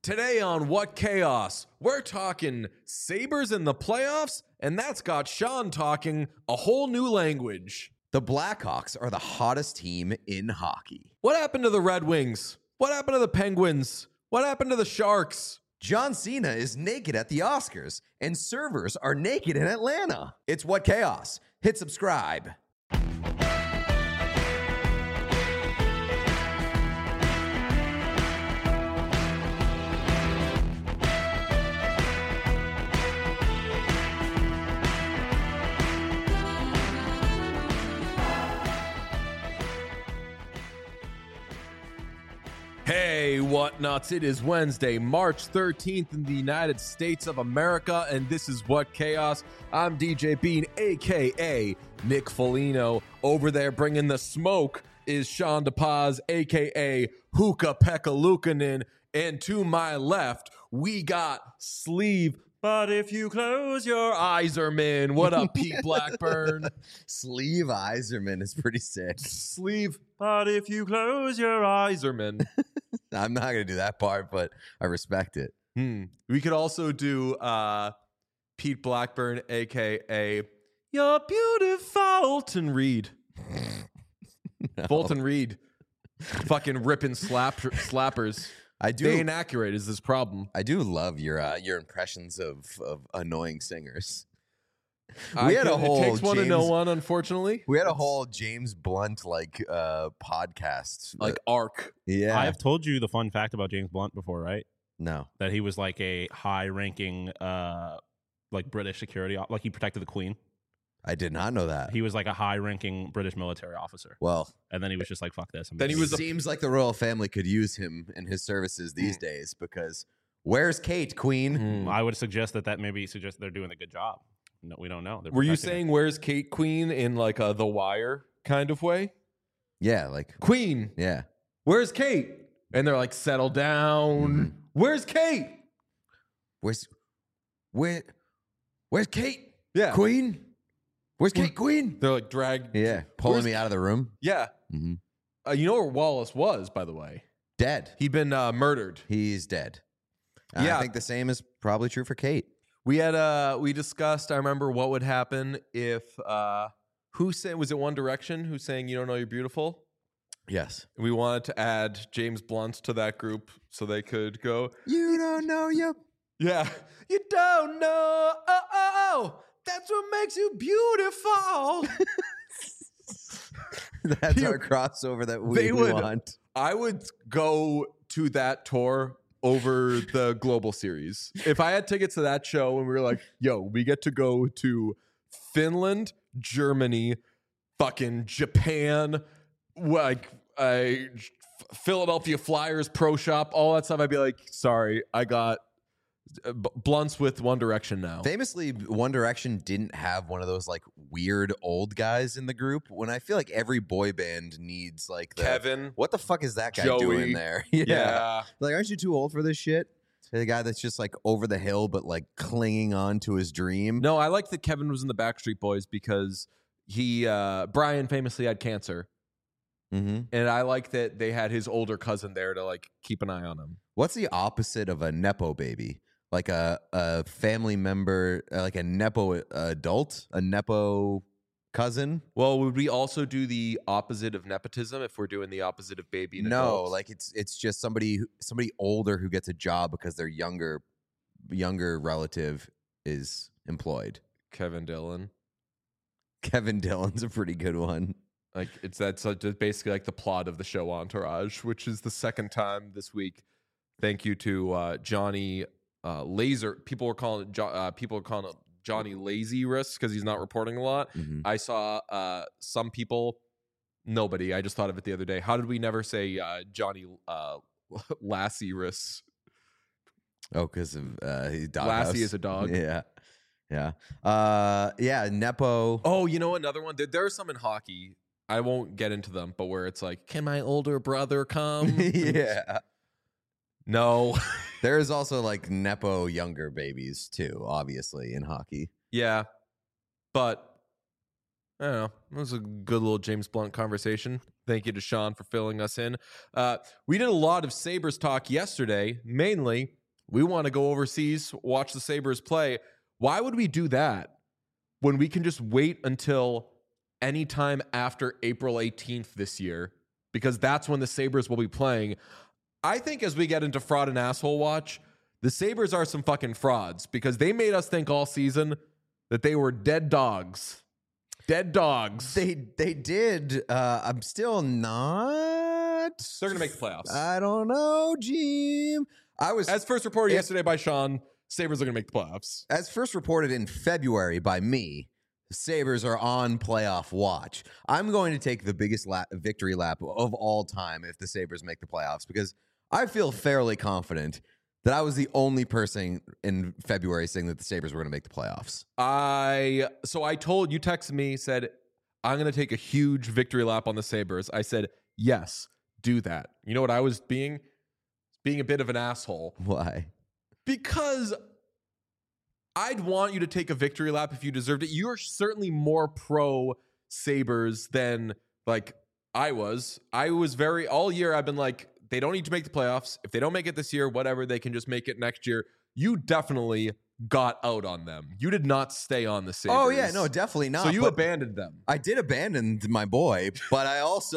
Today on What Chaos, we're talking Sabres in the playoffs, and that's got Sean talking a whole new language. The Blackhawks are the hottest team in hockey. What happened to the Red Wings? What happened to the Penguins? What happened to the Sharks? John Cena is naked at the Oscars, and servers are naked in Atlanta. It's What Chaos. Hit subscribe. Hey, what nuts? It is Wednesday, March 13th in the United States of America, and this is What Chaos. I'm DJ Bean, a.k.a. Nick Foligno. Over there bringing the smoke is Sean DePaz, a.k.a. Hookah Pekka Luukkonen. And to my left, we got Sleeve. But if you close your eyes, Iserman. What up, Pete Blackburn? Sleeve Iserman is pretty sick. Sleeve. But if you close your eyes, Iserman. I'm not going to do that part, but I respect it. We could also do Pete Blackburn, a.k.a. You're beautiful, Fulton Reed. No. Fulton Reed. Fucking ripping slappers. I do. They inaccurate is this problem. I do love your impressions of annoying singers. It takes one to know one, unfortunately. We had a whole James Blunt podcast, like arc. Yeah, I've told you the fun fact about James Blunt before, right? No, that he was like a high-ranking, like British security, like he protected the Queen. I did not know that. He was like a high-ranking British military officer. Well, and then he was just like, "Fuck this." Then he was. Seems like the royal family could use him in his services these days because where's Kate, Queen? I would suggest that maybe suggest they're doing a good job. No, we don't know. Were you saying where's Kate Queen in like a The Wire kind of way? Yeah, like Queen. Yeah. Where's Kate? And they're like, settle down. Where's Kate? Where's Kate? Yeah. Queen? Where's Kate Queen? They're like drag. Yeah, pulling me out of the room. Yeah. Mm-hmm. You know where Wallace was, by the way? Dead. He'd been murdered. He's dead. Yeah. I think the same is probably true for Kate. We discussed, I remember what would happen if, was it One Direction who's saying you don't know you're beautiful? Yes. We wanted to add James Blunt to that group so they could go, you don't know you. Yeah. You don't know. Oh, that's what makes you beautiful. That's our crossover that we want. I would go to that tour over the global series. If I had tickets to that show and we were like, yo, we get to go to Finland, Germany, fucking Japan, like Philadelphia Flyers Pro Shop, all that stuff, I'd be like, sorry, I got Blunts with One Direction now. Famously, One Direction didn't have one of those like weird old guys in the group. When I feel like every boy band needs like Kevin. What the fuck is that guy Joey. doing there? Yeah. Like, aren't you too old for this shit? The guy that's just like over the hill, but like clinging on to his dream. No, I like that Kevin was in the Backstreet Boys because Brian famously had cancer. Mm-hmm. And I like that they had his older cousin there to like keep an eye on him. What's the opposite of a Nepo baby? Like a family member, like a Nepo adult, a Nepo cousin? Well, would we also do the opposite of nepotism if we're doing the opposite of baby and No, adults? like it's just somebody older who gets a job because their younger relative is employed. Kevin Dillon. Kevin Dillon's a pretty good one. Like that's basically like the plot of the show Entourage, which is the second time this week. Thank you to Johnny Laser. People are calling it Johnny Lazy Wrist because he's not reporting a lot. Mm-hmm. I saw some people. Nobody. I just thought of it the other day. How did we never say Johnny Lassie Wrists? Oh, because of Lassie is a dog. Yeah. Yeah. Nepo. Oh, you know another one. There are some in hockey. I won't get into them, but where it's like, can my older brother come? Yeah. No. There is also like Nepo younger babies too, obviously, in hockey. Yeah. But I don't know. It was a good little James Blunt conversation. Thank you to Sean for filling us in. We did a lot of Sabres talk yesterday. Mainly, we want to go overseas, watch the Sabres play. Why would we do that when we can just wait until any time after April 18th this year? Because that's when the Sabres will be playing. I think as we get into fraud and asshole watch, the Sabres are some fucking frauds because they made us think all season that they were dead dogs. Dead dogs. They did. I'm still not. They're going to make the playoffs. I don't know, Jim. As first reported yesterday by Sean, Sabres are going to make the playoffs. As first reported in February by me, the Sabres are on playoff watch. I'm going to take the biggest victory lap of all time if the Sabres make the playoffs because I feel fairly confident that I was the only person in February saying that the Sabres were going to make the playoffs. So I told you, texted me, said, I'm going to take a huge victory lap on the Sabres. I said, yes, do that. You know what I was being? Being a bit of an asshole. Why? Because I'd want you to take a victory lap if you deserved it. You're certainly more pro Sabres than like I was. I was very, all year I've been like, they don't need to make the playoffs. If they don't make it this year, whatever, they can just make it next year. You definitely got out on them. You did not stay on the Sabres. Oh, yeah, no, definitely not. So you abandoned them. I did abandon my boy, but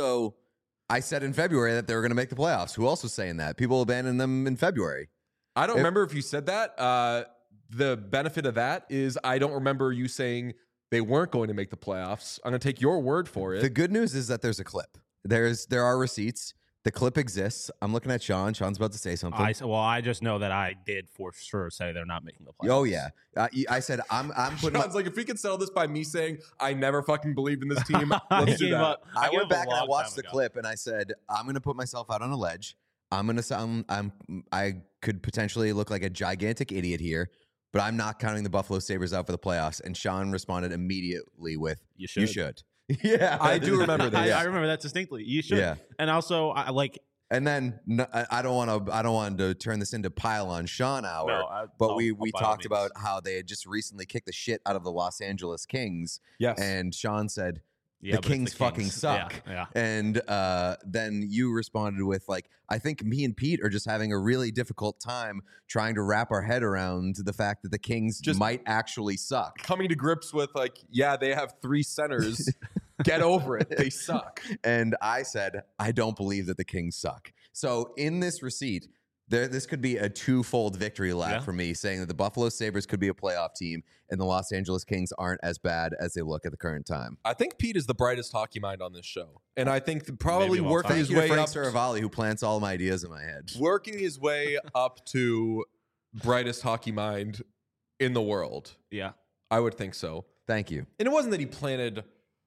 I said in February that they were going to make the playoffs. Who else was saying that? People abandoned them in February. I don't remember if you said that. The benefit of that is I don't remember you saying they weren't going to make the playoffs. I'm going to take your word for it. The good news is that there's a clip. There are receipts. The clip exists. I'm looking at Sean. Sean's about to say something. I just know that I did for sure say they're not making the playoffs. Oh yeah, I said I'm putting. Sean's like, if we could settle this by me saying I never fucking believed in this team, let's do that. I went back and I watched the clip and I said I'm going to put myself out on a ledge. I'm going to sound. I could potentially look like a gigantic idiot here, but I'm not counting the Buffalo Sabres out for the playoffs. And Sean responded immediately with, "You should." Yeah, I do remember that. I remember that distinctly. You should. Yeah. And also, And then I don't want to turn this into pile on Sean hour. No, but we talked about how they had just recently kicked the shit out of the Los Angeles Kings. Yes. And Sean said, yeah, the Kings fucking suck. Yeah. And then you responded with like, I think me and Pete are just having a really difficult time trying to wrap our head around the fact that the Kings just might actually suck. Coming to grips with like, yeah, they have 3 centers. Get over it. They suck. And I said, I don't believe that the Kings suck. So in this receipt, this could be a twofold victory lap for me, saying that the Buffalo Sabres could be a playoff team and the Los Angeles Kings aren't as bad as they look at the current time. I think Pete is the brightest hockey mind on this show. And I think probably Maybe working his way Frank up. Saravalli, who plants all my ideas in my head. Working his way up to brightest hockey mind in the world. Yeah. I would think so. Thank you. And it wasn't that he planted.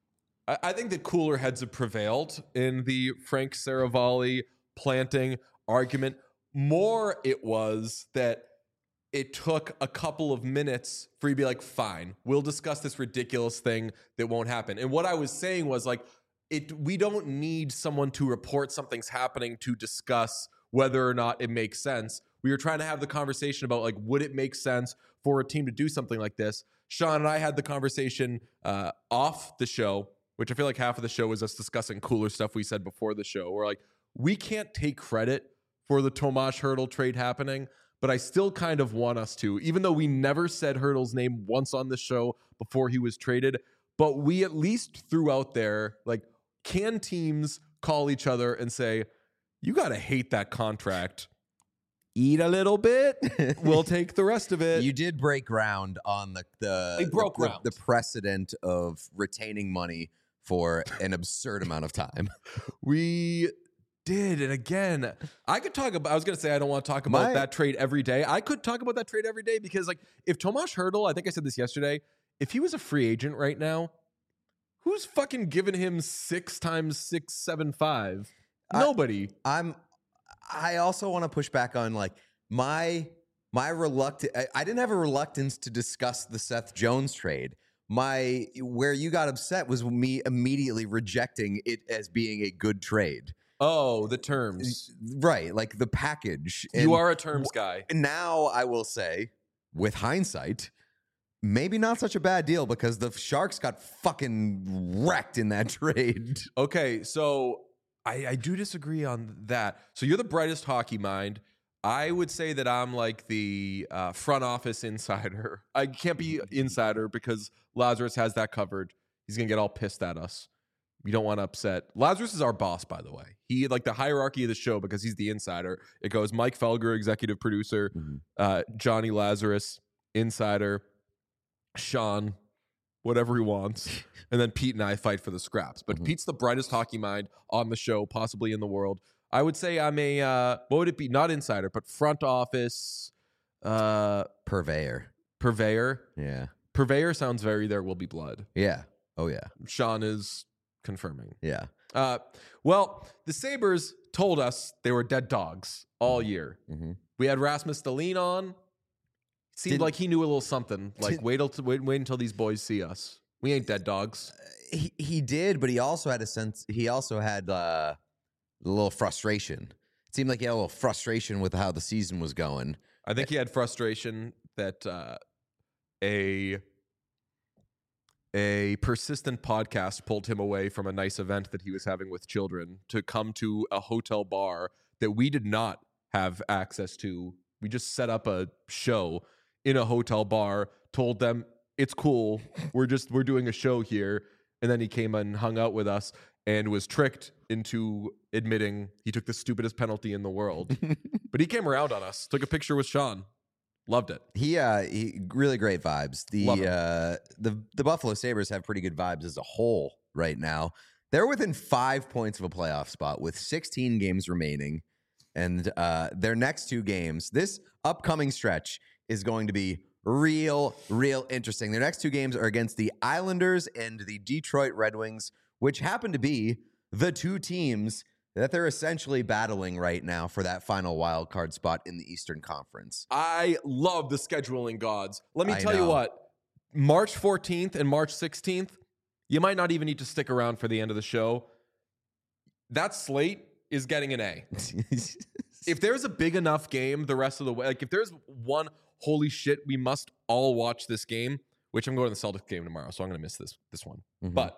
I think the cooler heads have prevailed in the Frank Saravalli planting argument. More it was that it took a couple of minutes for you to be like, fine, we'll discuss this ridiculous thing that won't happen. And what I was saying was like, we don't need someone to report something's happening to discuss whether or not it makes sense. We were trying to have the conversation about like, would it make sense for a team to do something like this? Sean and I had the conversation off the show, which I feel like half of the show was us discussing cooler stuff we said before the show. We're like, we can't take credit for the Tomas Hertl trade happening, but I still kind of want us to, even though we never said Hertl's name once on the show before he was traded, but we at least threw out there, like, can teams call each other and say, you got to hate that contract. Eat a little bit. We'll take the rest of it. You did break ground on the precedent of retaining money for an absurd amount of time. We did. And again, I was going to say I don't want to talk about that trade every day. I could talk about that trade every day because, like, if Tomas Hertl, I think I said this yesterday, if he was a free agent right now, who's fucking giving him 6 times 675? Nobody. I also want to push back on like my reluctance. I didn't have a reluctance to discuss the Seth Jones trade. Where you got upset was me immediately rejecting it as being a good trade. Oh, the terms. Right, like the package. You are a terms guy. Now I will say, with hindsight, maybe not such a bad deal because the Sharks got fucking wrecked in that trade. Okay, so I do disagree on that. So you're the brightest hockey mind. I would say that I'm like the front office insider. I can't be insider because Lazarus has that covered. He's going to get all pissed at us. We don't want to upset. Lazarus is our boss, by the way. He like the hierarchy of the show because he's the insider. It goes Mike Felger, executive producer, Johnny Lazarus, insider, Sean, whatever he wants, and then Pete and I fight for the scraps. But Pete's the brightest hockey mind on the show, possibly in the world. I would say I'm a what would it be? Not insider, but front office Purveyor. Yeah. Purveyor sounds very there will be blood. Yeah. Oh yeah. Sean is confirming. Yeah. Well, the Sabres told us they were dead dogs all year. We had Rasmus Dahlin on. Seemed like he knew a little something. Like wait until these boys see us. We ain't dead dogs. He did, but he also had a sense. He also had a little frustration. It seemed like he had a little frustration with how the season was going. I think he had frustration that a persistent podcast pulled him away from a nice event that he was having with children to come to a hotel bar that we did not have access to. We just set up a show in a hotel bar, told them it's cool. We're doing a show here. And then he came and hung out with us and was tricked into admitting he took the stupidest penalty in the world. But he came around on us, took a picture with Sean. Loved it. He really great vibes. The Buffalo Sabres have pretty good vibes as a whole right now. They're within 5 points of a playoff spot with 16 games remaining. And their next 2 games, this upcoming stretch is going to be real interesting. Their next 2 games are against the Islanders and the Detroit Red Wings, which happen to be the 2 teams that they're essentially battling right now for that final wild card spot in the Eastern Conference. I love the scheduling gods. Let me tell you what, March 14th and March 16th, you might not even need to stick around for the end of the show. That slate is getting an A. If there's a big enough game the rest of the way, like if there's one, holy shit, we must all watch this game, which I'm going to the Celtics game tomorrow, so I'm going to miss this one. But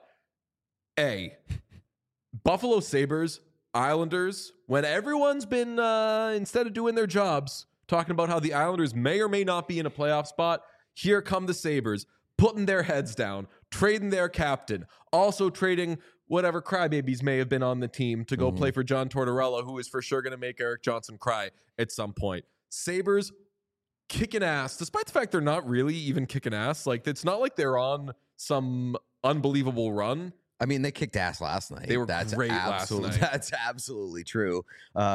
A, Buffalo Sabres, Islanders, when everyone's been, instead of doing their jobs, talking about how the Islanders may or may not be in a playoff spot, here come the Sabres, putting their heads down, trading their captain, also trading whatever crybabies may have been on the team to go play for John Tortorella, who is for sure going to make Eric Johnson cry at some point. Sabres kicking ass, despite the fact they're not really even kicking ass. Like, it's not like they're on some unbelievable run. I mean, they kicked ass last night. They were great last night. That's absolutely true.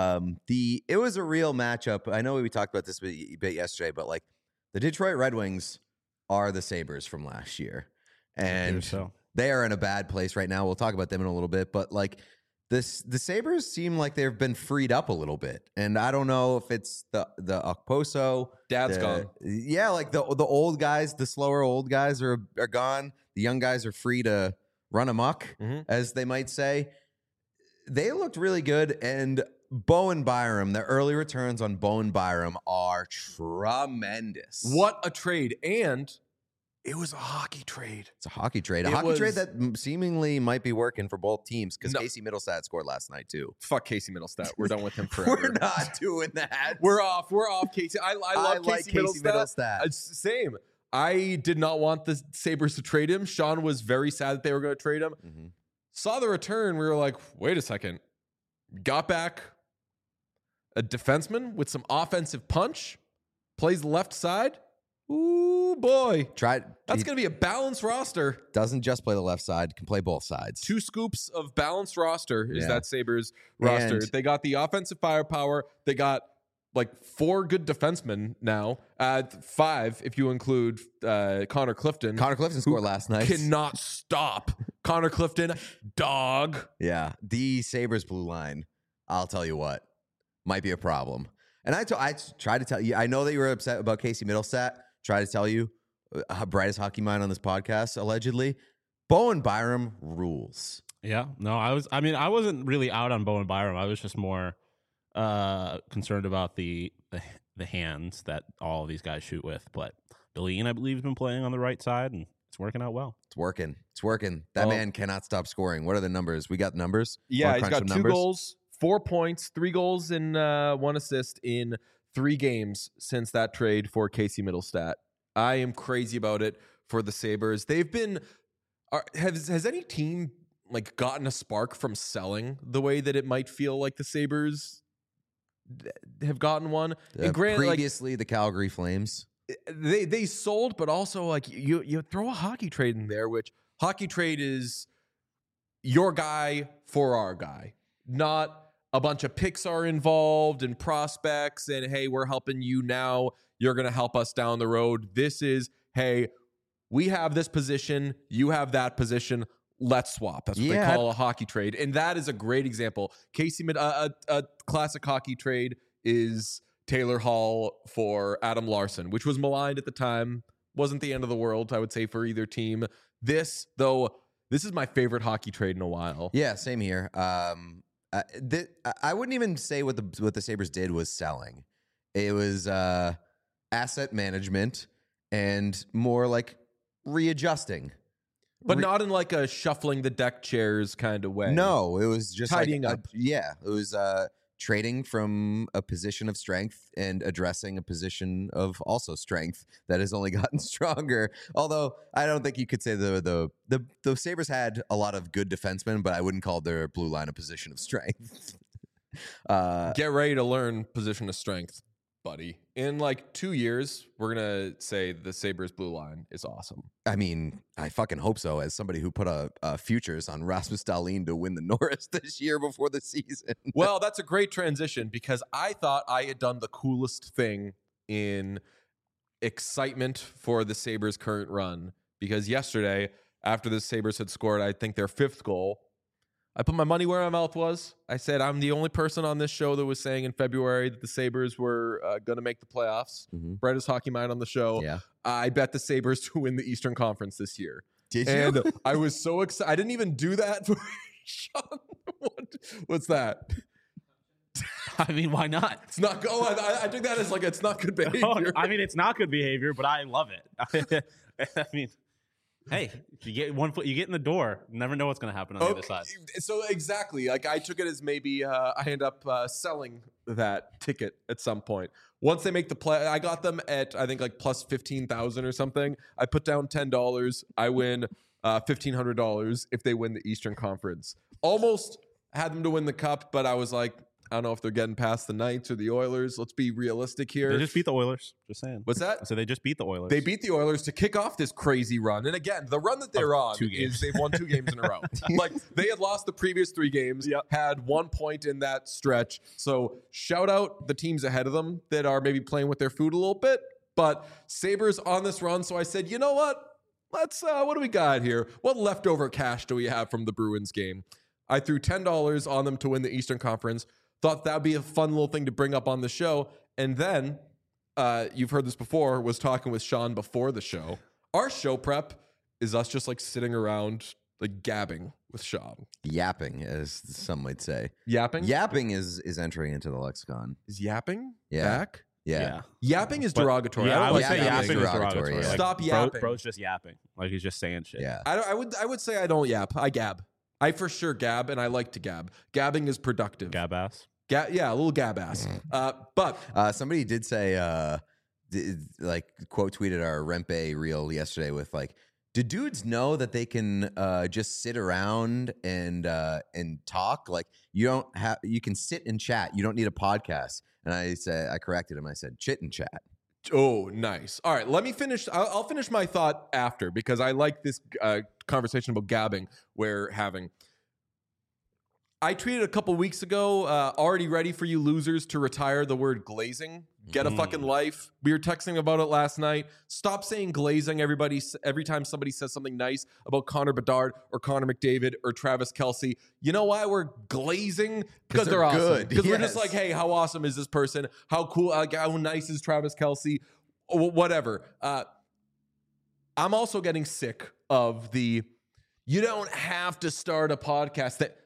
It was a real matchup. I know we talked about this a bit yesterday, but like the Detroit Red Wings are the Sabres from last year. And they are in a bad place right now. We'll talk about them in a little bit, but like the Sabres seem like they've been freed up a little bit. And I don't know if it's the Okposo. Dad's gone. Yeah, like the old guys, the slower old guys are gone. The young guys are free to run amok, as they might say. They looked really good, and Bowen Byram, the early returns on Bowen Byram are tremendous. What a trade. And it was a hockey trade. It's a hockey trade. A hockey trade that seemingly might be working for both teams because Casey Middlestat scored last night, too. Fuck Casey Middlestat. We're done with him forever. We're not doing that. We're off, Casey. I love Casey Middlestat. Same. I did not want the Sabres to trade him. Sean was very sad that they were going to trade him. Saw the return. We were like, wait a second. Got back a defenseman with some offensive punch. Plays the left side. Ooh, boy. That's going to be a balanced roster. Doesn't just play the left side. Can play both sides. 2 scoops of balanced roster is that Sabres roster. They got the offensive firepower. They got like 4 good defensemen now. 5 if you include Connor Clifton. Connor Clifton scored last night. Cannot stop. Connor Clifton, dog. Yeah, the Sabres blue line, I'll tell you what, might be a problem. And I tried to tell you, I know that you were upset about Casey Middlestat. Try to tell you, brightest hockey mind on this podcast, allegedly. Bowen Byram rules. Yeah, no, I wasn't really out on Bowen Byram. I was just more concerned about the hands that all of these guys shoot with. But Billy, I believe, has been playing on the right side, and it's working out well. It's working. It's working. That man cannot stop scoring. What are the numbers? We got numbers. Yeah, Wanna he's crunch got some 2 numbers? goals, 4 points, 3 goals, and 1 assist in 3 games since that trade for Casey Middlestat. I am crazy about it for the Sabres. They've been. Has any team like gotten a spark from selling the way that it might feel like the Sabres have gotten one? And granted, Previously, the Calgary Flames. they sold, but also like you throw a hockey trade in there, which hockey trade is your guy for our guy, not a bunch of picks are involved and prospects and hey, we're helping you now, you're going to help us down the road. This is, hey, we have this position, you have that position, let's swap. That's what they call a hockey trade, and that is a great example. A classic hockey trade is Taylor Hall for Adam Larson, which was maligned at the time. Wasn't the end of the world, I would say, for either team. This is my favorite hockey trade in a while. Yeah, same here. I wouldn't even say what the Sabres did was selling. It was asset management and more like readjusting. But not in like a shuffling the deck chairs kind of way. No, it was just tidying like up. It was trading from a position of strength and addressing a position of also strength that has only gotten stronger. Although I don't think you could say the Sabres had a lot of good defensemen, but I wouldn't call their blue line a position of strength. Get ready to learn position of strength, buddy. In like 2 years, we're going to say the Sabres blue line is awesome. I mean, I fucking hope so, as somebody who put a futures on Rasmus Dahlin to win the Norris this year before the season. Well, that's a great transition because I thought I had done the coolest thing in excitement for the Sabres' current run. Because yesterday, after the Sabres had scored, I think their 5th goal, I put my money where my mouth was. I said, I'm the only person on this show that was saying in February that the Sabres were going to make the playoffs. Mm-hmm. Brett is Hockey Mind on the show. Yeah. I bet the Sabres to win the Eastern Conference this year. Did you? And I was so excited. I didn't even do that. Sean, what's that? I mean, why not? It's not. I took that as like it's not good behavior. I mean, it's not good behavior, but I love it. I mean, hey, you get one foot, you get in the door. You never know what's going to happen on the other side. So exactly, like I took it as maybe I end up selling that ticket at some point. Once they make the play, I got them at I think like plus 15,000 or something. I put down $10. I win $1,500 if they win the Eastern Conference. Almost had them to win the cup, but I was like, I don't know if they're getting past the Knights or the Oilers. Let's be realistic here. They just beat the Oilers. Just saying. What's that? So they just beat the Oilers. They beat the Oilers to kick off this crazy run. And again, the run that they're on is they've won 2 games in a row. Like they had lost the previous 3 games, had 1 point in that stretch. So shout out the teams ahead of them that are maybe playing with their food a little bit. But Sabres on this run. So I said, you know what? Let's, what do we got here? What leftover cash do we have from the Bruins game? I threw $10 on them to win the Eastern Conference. Thought that would be a fun little thing to bring up on the show. And then, you've heard this before, was talking with Sean before the show. Our show prep is us just like sitting around like gabbing with Sean. Yapping, as some might say. Yapping? Yapping is entering into the lexicon. Is yapping back? Yeah. Yapping is derogatory. Yeah, I would say yapping yapping is derogatory. derogatory. Yeah. Like, Stop yapping. Bro's just yapping. Like he's just saying shit. Yeah. I would say I don't yap. I gab. I for sure gab, and I like to gab. Gabbing is productive. Gab ass. Yeah, a little gab ass. But Somebody did say, like, quote tweeted our Rempe reel yesterday with like, do dudes know that they can just sit around and talk? Like, you can sit and chat. You don't need a podcast. And I corrected him. I said, chit and chat. oh, nice. All right, let me finish. I'll finish my thought after because I like this conversation about gabbing we're having. I tweeted a couple weeks ago, already ready for you losers to retire the word glazing. Get a fucking life. We were texting about it last night. Stop saying glazing every time somebody says something nice about Connor Bedard or Connor McDavid or Travis Kelce. You know why we're glazing? Because they're awesome. good. Because we're Yes. just like, hey, how awesome is this person? How cool, how nice is Travis Kelce? Whatever. I'm also getting sick of you don't have to start a podcast that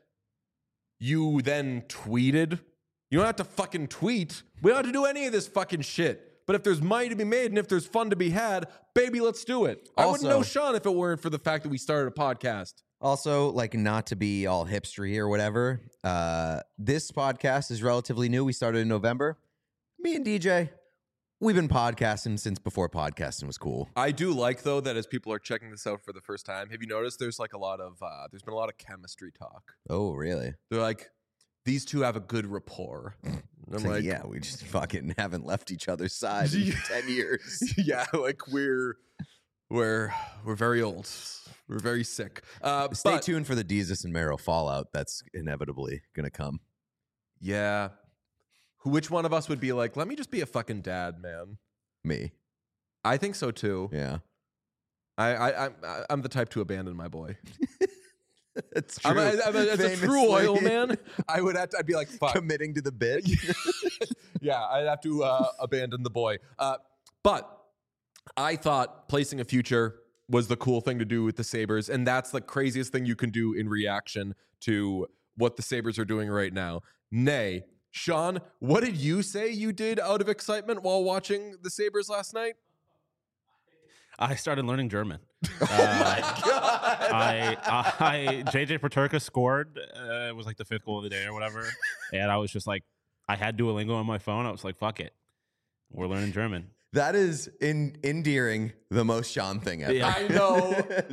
you then tweeted. You don't have to fucking tweet. We don't have to do any of this fucking shit. But if there's money to be made and if there's fun to be had, baby, let's do it. I wouldn't know Also- Sean if it weren't for the fact that we started a podcast. Also, like, not to be all hipstery or whatever, this podcast is relatively new. We started in November. Me and DJ, we've been podcasting since before podcasting was cool. I do like, though, that as people are checking this out for the first time, have you noticed there's like there's been a lot of chemistry talk. Oh, really? They're like, these two have a good rapport. And I'm It's like, like, yeah, we just fucking haven't left each other's side in 10 years. yeah, like we're very old. We're very sick. Stay tuned for the Jesus and Mero fallout that's inevitably going to come. Yeah. Which one of us would be like, let me just be a fucking dad, man? Me. I think so too. Yeah. I'm the type to abandon my boy. It's true. As a true oil man, I'd be like, fuck. Committing to the bit. Yeah, I'd have to abandon the boy. But I thought placing a future was the cool thing to do with the Sabres, and that's the craziest thing you can do in reaction to what the Sabres are doing right now. Nay, Sean, what did you say you did out of excitement while watching the Sabres last night? I started learning German. Oh my God. JJ Peterka scored. It was like the 5th goal of the day or whatever. And I was just like, I had Duolingo on my phone. I was like, fuck it. We're learning German. That is endearing the most Sean thing ever. Yeah. I know.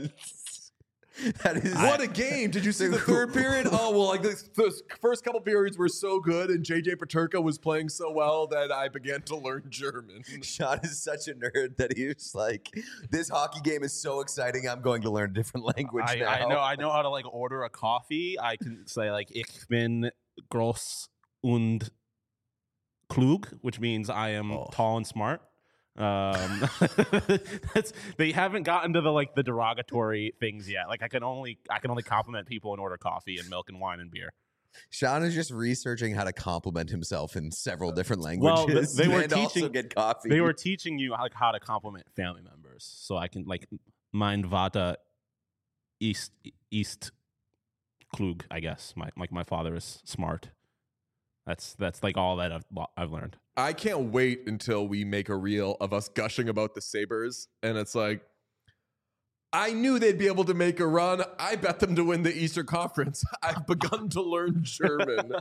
That is What a game. Did you see the third period? Oh, well, like the first couple periods were so good, and JJ Peterka was playing so well that I began to learn German. Sean is such a nerd that he was like, this hockey game is so exciting, I'm going to learn a different language now. I know how to like order a coffee. I can say like ich bin groß und klug, which means I am tall and smart. They haven't gotten to the derogatory things yet. Like I can only compliment people and order coffee and milk and wine and beer. Sean is just researching how to compliment himself in several different languages. Well, they were and also teaching get coffee. They were teaching you how to compliment family members. So I can like mein Vater ist klug, I guess. My father is smart. That's like all that I've learned. I can't wait until we make a reel of us gushing about the Sabres, and it's like, I knew they'd be able to make a run. I bet them to win the Eastern Conference. I've begun to learn German.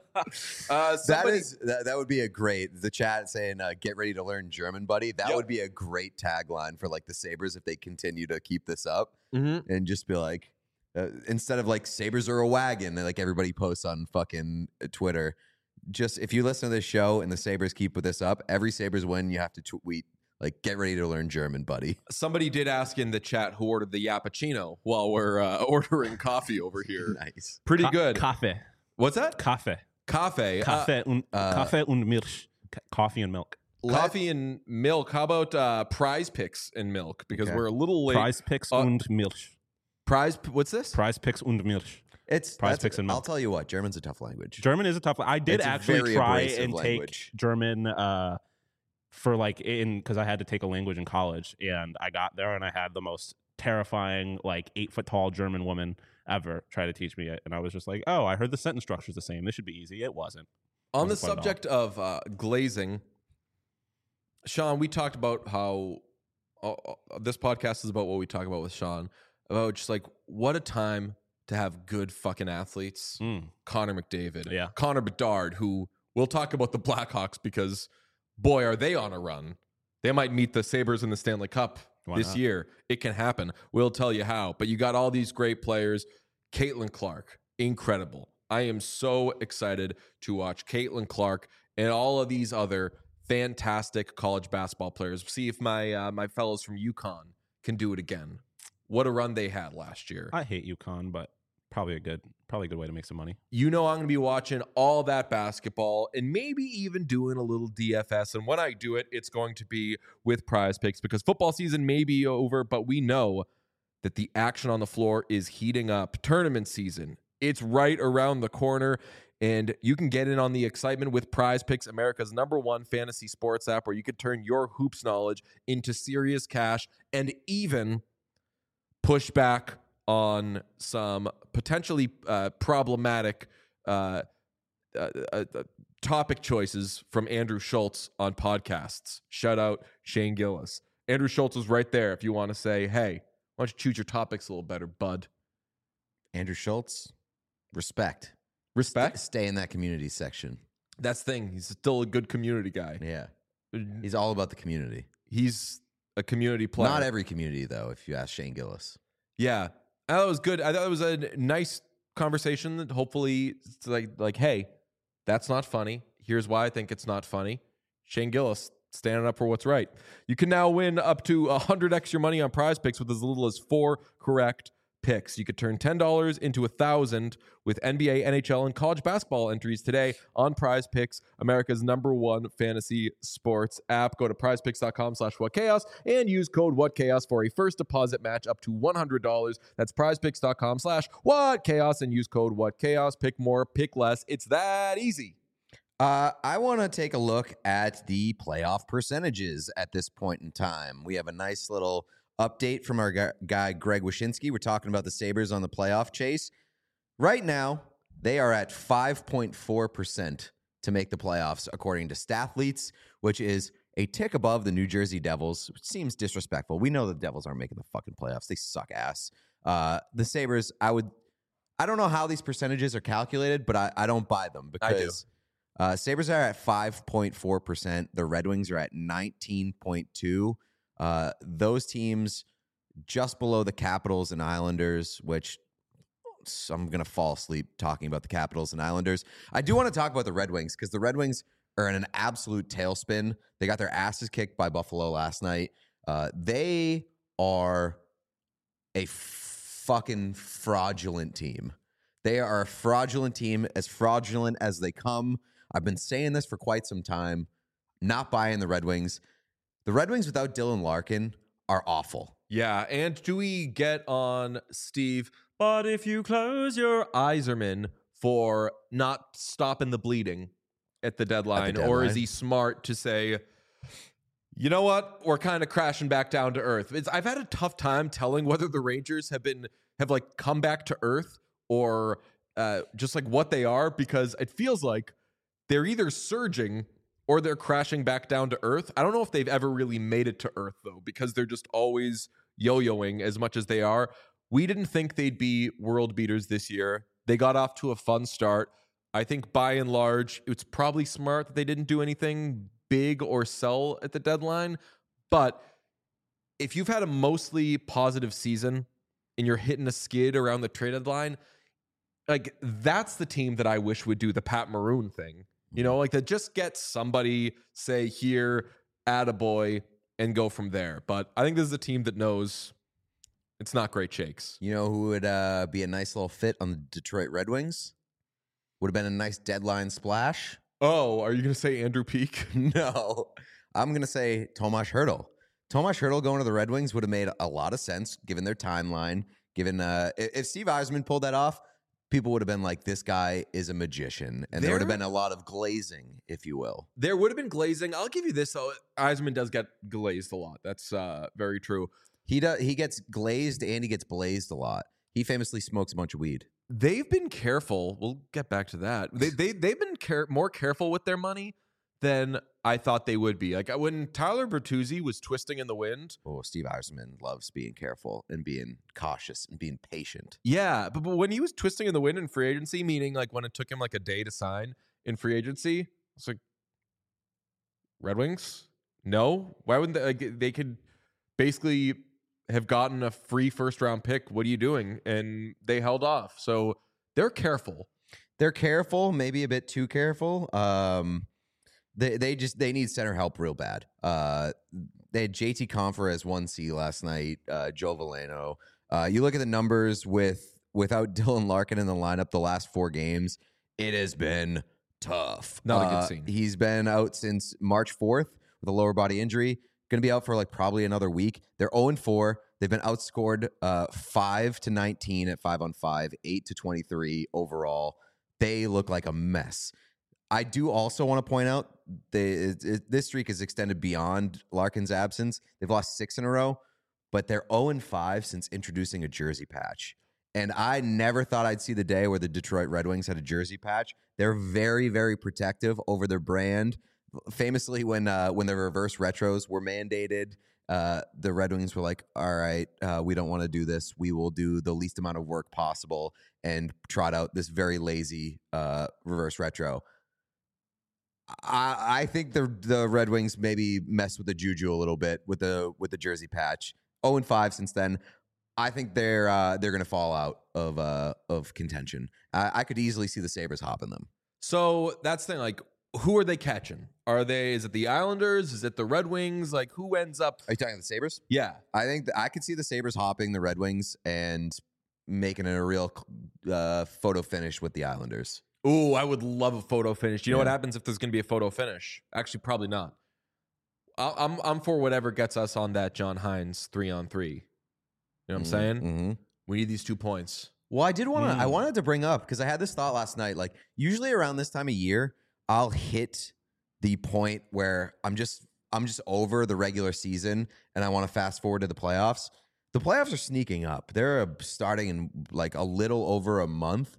That would be the chat saying, get ready to learn German, buddy. That would be a great tagline for like the Sabres if they continue to keep this up and just be like, instead of like Sabres are a wagon, like everybody posts on fucking Twitter. Just if you listen to this show and the Sabres keep with this up, every Sabres win, you have to tweet like, get ready to learn German, buddy. Somebody did ask in the chat who ordered the Yappuccino while we're ordering coffee over here. Nice. Pretty good. Kaffee. What's that? Kaffee. Kaffee. Kaffee und Milch. Coffee and milk. Coffee and milk. How about Prize Picks and milk? Because we're a little late. Prize Picks und Milch. What's this? Prize Picks und Milch. Prize Picks and milk. I'll tell you what, German's a tough language. German is a tough. I did It's a actually very try abrasive and language. take German for like because I had to take a language in college, and I got there and I had the most terrifying 8-foot tall German woman ever try to teach me it, and I was just like, oh, I heard the sentence structure is the same. This should be easy. It wasn't. On the Wasn't fun at all. subject of glazing, Sean, we talked about how this podcast is about what we talk about with Sean, about just like what a time to have good fucking athletes. Connor McDavid, Yeah. Connor Bedard, who we'll talk about the Blackhawks because boy, are they on a run. They might meet the Sabres in the Stanley Cup this not? year. It can happen. We'll tell you how. But you got all these great players. Caitlin Clark, incredible. I am so excited to watch Caitlin Clark and all of these other fantastic college basketball players. See if my fellows from UConn can do it again. What a run they had last year. I hate UConn, but probably a good way to make some money. You know I'm going to be watching all that basketball and maybe even doing a little DFS. And when I do it, it's going to be with Prize Picks because football season may be over, but we know that the action on the floor is heating up. Tournament season, it's right around the corner, and you can get in on the excitement with Prize Picks, America's #1 fantasy sports app, where you can turn your hoops knowledge into serious cash and even push back on some potentially problematic topic choices from Andrew Schultz on podcasts. Shout out Shane Gillis. Andrew Schultz is right there if you want to say, hey, why don't you choose your topics a little better, bud? Andrew Schultz, respect. Respect? Stay in that community section. That's the thing. He's still a good community guy. Yeah. He's all about the community. He's a community player. Not every community, though, if you ask Shane Gillis. Yeah. I thought it was good. I thought it was a nice conversation that hopefully it's like, hey, that's not funny. Here's why I think it's not funny. Shane Gillis standing up for what's right. You can now win up to 100x your money on Prize Picks with as little as 4 correct picks. You could turn $10 into 1,000 with NBA, NHL, and college basketball entries today on Prize Picks, America's #1 fantasy sports app. Go to prizepicks.com/whatchaos and use code whatchaos for a first deposit match up to $100. That's prizepicks.com/whatchaos and use code whatchaos. Pick more, pick less. It's that easy. I want to take a look at the playoff percentages at this point in time. We have a nice little update from our guy, Greg Wyshynski. We're talking about the Sabres on the playoff chase. Right now, they are at 5.4% to make the playoffs, according to Stathletes, which is a tick above the New Jersey Devils, which seems disrespectful. We know the Devils aren't making the fucking playoffs. They suck ass. The Sabres, I don't know how these percentages are calculated, but I don't buy them because Sabres are at 5.4%. The Red Wings are at 19.2%. Those teams just below the Capitals and Islanders, which I'm going to fall asleep talking about the Capitals and Islanders. I do want to talk about the Red Wings because the Red Wings are in an absolute tailspin. They got their asses kicked by Buffalo last night. They are a fucking fraudulent team. They are a fraudulent team, as fraudulent as they come. I've been saying this for quite some time. Not buying the Red Wings. The Red Wings without Dylan Larkin are awful. Yeah, and do we get on Steve? But if you close your Yzerman for not stopping the bleeding at the deadline, or is he smart to say, you know what, we're kind of crashing back down to earth? I've had a tough time telling whether the Rangers have like come back to earth or just like what they are, because it feels like they're either surging or they're crashing back down to earth. I don't know if they've ever really made it to earth, though, because they're just always yo-yoing as much as they are. We didn't think they'd be world beaters this year. They got off to a fun start. I think by and large, it's probably smart that they didn't do anything big or sell at the deadline. But if you've had a mostly positive season and you're hitting a skid around the trade deadline, like that's the team that I wish would do the Pat Maroon thing. You know, like that just gets somebody, say, here, attaboy, and go from there. But I think this is a team that knows it's not great shakes. You know who would be a nice little fit on the Detroit Red Wings? Would have been a nice deadline splash. Oh, are you going to say Andrew Peeke? No. I'm going to say Tomas Hertl. Tomas Hertl going to the Red Wings would have made a lot of sense given their timeline. Given if Steve Yzerman pulled that off, people would have been like, this guy is a magician. And there would have been a lot of glazing, if you will. There would have been glazing. I'll give you this, though. Yzerman does get glazed a lot. That's very true. He gets glazed and he gets blazed a lot. He famously smokes a bunch of weed. They've been careful. We'll get back to that. They've been more careful with their money than I thought they would be. Like when Tyler Bertuzzi was twisting in the wind. Oh, Steve Yzerman loves being careful and being cautious and being patient. Yeah, but when he was twisting in the wind in free agency, meaning like when it took him like a day to sign in free agency, it's like, Red Wings? No? Why wouldn't they? Like, they could basically have gotten a free first-round pick. What are you doing? And they held off. So they're careful. They're careful, maybe a bit too careful. They need center help real bad. They had JT Compher as 1C last night, Joe Veleno. You look at the numbers without Dylan Larkin in the lineup the last 4 games, it has been tough. Not a good scene. He's been out since March 4th with a lower body injury. Going to be out for like probably another week. They're 0-4. They've been outscored 5-19 at 5-on-5, 8-23 overall. They look like a mess. I do also want to point out this streak is extended beyond Larkin's absence. They've lost 6 in a row, but they're 0-5 since introducing a jersey patch. And I never thought I'd see the day where the Detroit Red Wings had a jersey patch. They're very, very protective over their brand. Famously, when the reverse retros were mandated, the Red Wings were like, all right, we don't want to do this. We will do the least amount of work possible and trot out this very lazy reverse retro. I think the Red Wings maybe messed with the juju a little bit with the jersey patch. 0-5 since then. I think they're going to fall out of contention. I could easily see the Sabres hopping them. So that's the thing. Like, who are they catching? Is it the Islanders? Is it the Red Wings? Like, who ends up? Are you talking the Sabres? Yeah, I think I could see the Sabres hopping the Red Wings and making it a real photo finish with the Islanders. Ooh, I would love a photo finish. You know Yeah. what happens if there's going to be a photo finish? Actually, probably not. I'm for whatever gets us on that John Hines 3-on-3. You know what I'm saying? Mm-hmm. We need these 2 points. Well, I wanted to bring up, because I had this thought last night. Like, usually around this time of year, I'll hit the point where I'm just over the regular season and I want to fast forward to the playoffs. The playoffs are sneaking up. They're starting in like a little over a month.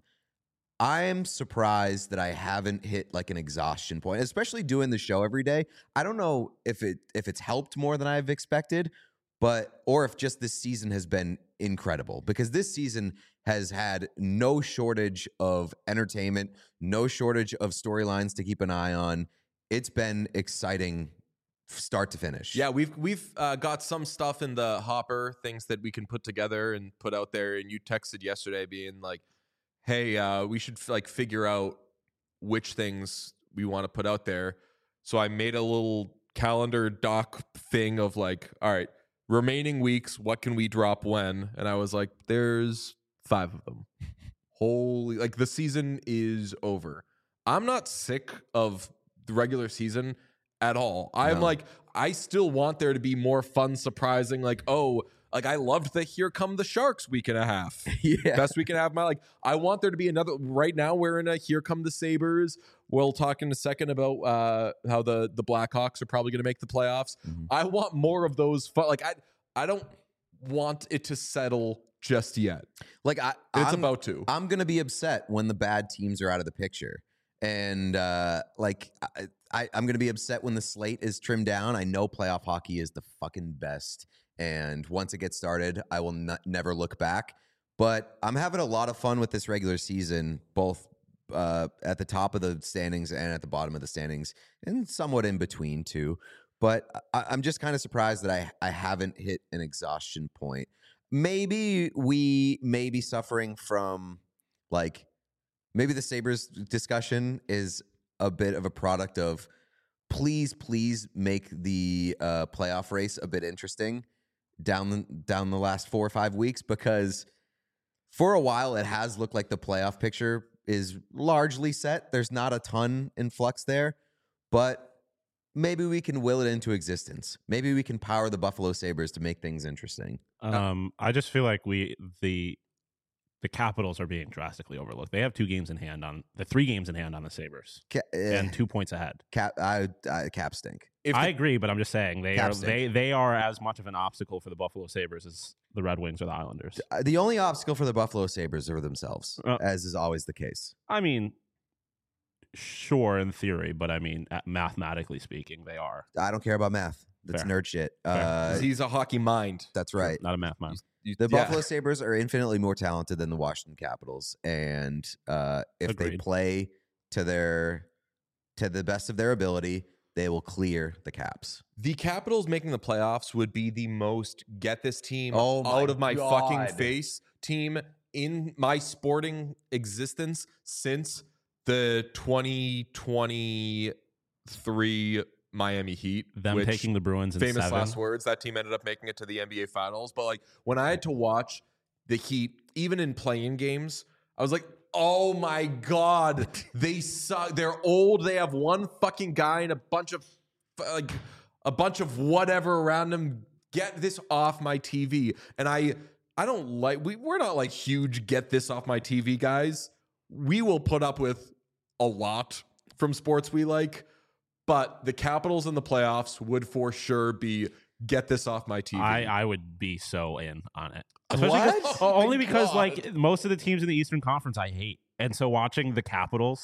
I'm surprised that I haven't hit like an exhaustion point, especially doing the show every day. I don't know if it's helped more than I've expected, or if just this season has been incredible, because this season has had no shortage of entertainment, no shortage of storylines to keep an eye on. It's been exciting start to finish. Yeah, we've got some stuff in the hopper, things that we can put together and put out there. And you texted yesterday being like, hey, we should like figure out which things we want to put out there. So I made a little calendar doc thing of like, all right, remaining weeks, what can we drop when? And I was like, there's 5 of them. Holy, like the season is over. I'm not sick of the regular season at all. I'm like, I still want there to be more fun, surprising, like, oh, like I loved the Here Come the Sharks week and a half. Yeah. Best week and a half. I want there to be another. Right now we're in a Here Come the Sabres. We'll talk in a second about how the Blackhawks are probably going to make the playoffs. Mm-hmm. I want more of those fun. Like I don't want it to settle just yet. Like It's about to. I'm gonna be upset when the bad teams are out of the picture, and I'm gonna be upset when the slate is trimmed down. I know playoff hockey is the fucking best, and once it gets started, I will never look back. But I'm having a lot of fun with this regular season, both at the top of the standings and at the bottom of the standings, and somewhat in between too. But I'm just kind of surprised that I haven't hit an exhaustion point. Maybe we may be suffering from, like, maybe the Sabres discussion is a bit of a product of please make the playoff race a bit interesting down the last 4 or 5 weeks, because for a while it has looked like the playoff picture is largely set. There's not a ton in flux there, but maybe we can will it into existence. Maybe we can power the Buffalo Sabres to make things interesting. I just feel like the Capitals are being drastically overlooked. They have 2 games in hand on the 3 games in hand on the Sabres and 2 points ahead. Cap stink. I agree, but I'm just saying Cap they are as much of an obstacle for the Buffalo Sabres as the Red Wings or the Islanders. The only obstacle for the Buffalo Sabres are themselves, as is always the case. I mean, sure, in theory, but I mean, mathematically speaking, they are. I don't care about math. That's Fair. nerd shit. He's a hockey mind. That's right. Not a math man. The Buffalo Sabres are infinitely more talented than the Washington Capitals, and if they Agreed. play to the best of their ability, they will clear the Caps. The Capitals making the playoffs would be the most get this team Oh my out of my God. fucking face team in my sporting existence since the 2023 Miami Heat. Them which, taking the Bruins in famous 7. last words, that team ended up making it to the NBA Finals. But like when I had to watch the Heat, even in play-in games, I was like, oh my God, they suck. They're old. They have one fucking guy and a bunch of whatever around them. Get this off my TV. And I don't like, we're not like huge get this off my TV guys. We will put up with a lot from sports we like, but the Capitals in the playoffs would for sure be get this off my TV. I would be so in on it. What? Only because God. like most of the teams in the Eastern Conference I hate. And so watching the Capitals,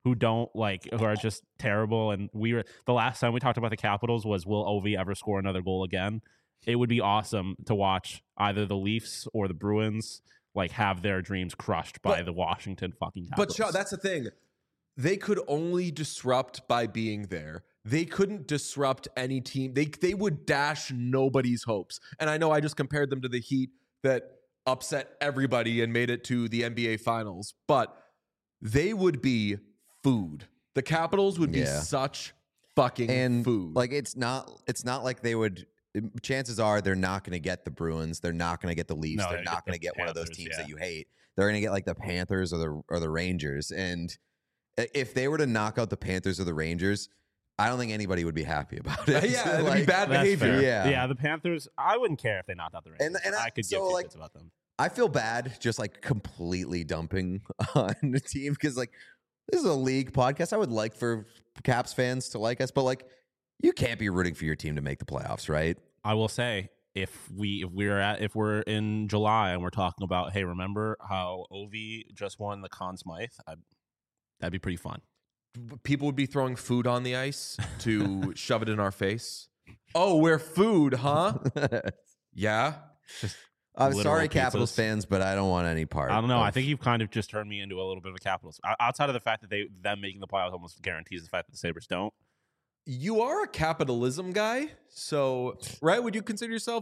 who are just terrible. And the last time we talked about the Capitals was, will Ovi ever score another goal again? It would be awesome to watch either the Leafs or the Bruins have their dreams crushed by the Washington fucking Capitals. But Sean, that's the thing. They could only disrupt by being there. They couldn't disrupt any team. They would dash nobody's hopes. And I know I just compared them to the Heat that upset everybody and made it to the NBA Finals, but they would be food. The Capitals would be such fucking food. It's not like they would. Chances are they're not going to get the Bruins. They're not going to get the Leafs. They're not going to get one of those teams that you hate. They're going to get the Panthers or the Rangers. And if they were to knock out the Panthers or the Rangers, I don't think anybody would be happy about it. Yeah, it'd be bad behavior. Yeah, the Panthers, I wouldn't care if they knocked out the Rangers. And I could give two shits about them. I feel bad just completely dumping on the team because this is a league podcast. I would like for Caps fans to like us, but you can't be rooting for your team to make the playoffs, right? I will say, if we're in July and we're talking about, hey, remember how Ovi just won the Conn Smythe? That'd be pretty fun. People would be throwing food on the ice to shove it in our face. Oh, we're food, huh? Yeah. I'm sorry, Capitals fans, but I don't want any part. I don't know. I think you've kind of just turned me into a little bit of a Capitals. Outside of the fact that them making the playoffs almost guarantees the fact that the Sabres don't. You are a capitalism guy, so right? Would you consider yourself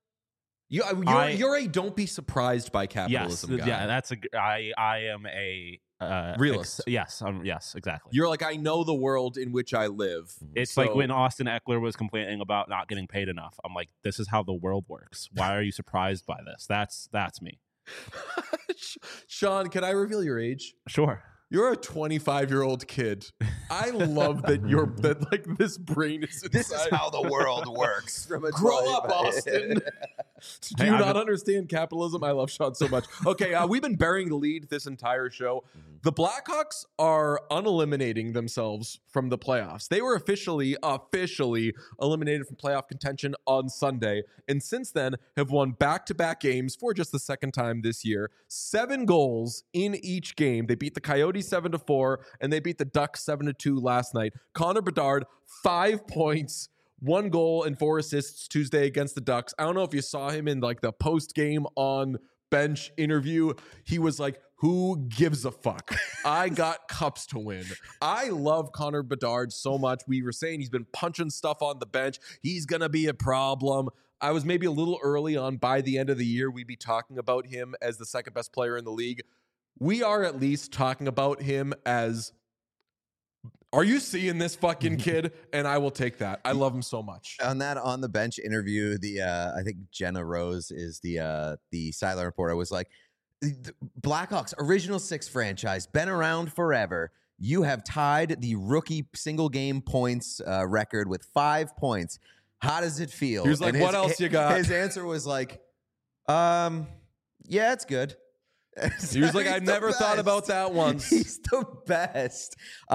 you're a don't be surprised by capitalism guy? Yeah, I am a realist. Yes, exactly. You're I know the world in which I live. It's like when Austin Eckler was complaining about not getting paid enough. I'm like, this is how the world works. Why are you surprised by this? That's me. Sean, can I reveal your age? Sure. You're a 25-year-old kid. I love that this brain is inside. This is how the world works. Grow up, Austin. Do you not understand capitalism? I love Sean so much. Okay, we've been burying the lead this entire show. The Blackhawks are uneliminating themselves from the playoffs. They were officially eliminated from playoff contention on Sunday, and since then have won back-to-back games for just the second time this year. 7 goals in each game. They beat the Coyotes 7-4, and they beat the Ducks 7-2 last night. Connor Bedard, 5 points, 1 goal and 4 assists Tuesday against the Ducks. I don't know if you saw him in the post game on bench interview. He was like, who gives a fuck? I got cups to win. I love Connor Bedard so much. We were saying he's been punching stuff on the bench. He's going to be a problem. I was maybe a little early on. By the end of the year, we'd be talking about him as the second best player in the league. We are at least talking about him as, are you seeing this fucking kid? And I will take that. I love him so much. On the bench interview, I think Jenna Rose is the sideline reporter, was like, the Blackhawks original 6 franchise, been around forever. You have tied the rookie single game points record with 5 points. How does it feel? He was like, what else you got? His answer was like, yeah, it's good. He was like, I never thought about that once. He's the best.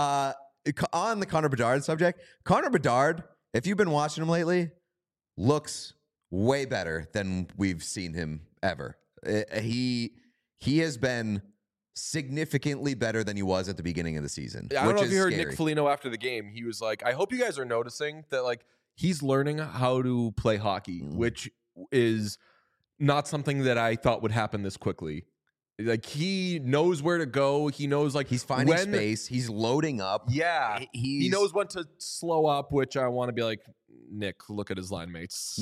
On the Connor Bedard subject, Connor Bedard, if you've been watching him lately, looks way better than we've seen him ever. He has been significantly better than he was at the beginning of the season. I don't know if you heard scary. Nick Foligno after the game. He was like, I hope you guys are noticing that he's learning how to play hockey, which is not something that I thought would happen this quickly. He knows where to go. He knows he's finding space. He's loading up. Yeah. He knows when to slow up, which I want to be like, Nick, look at his line mates.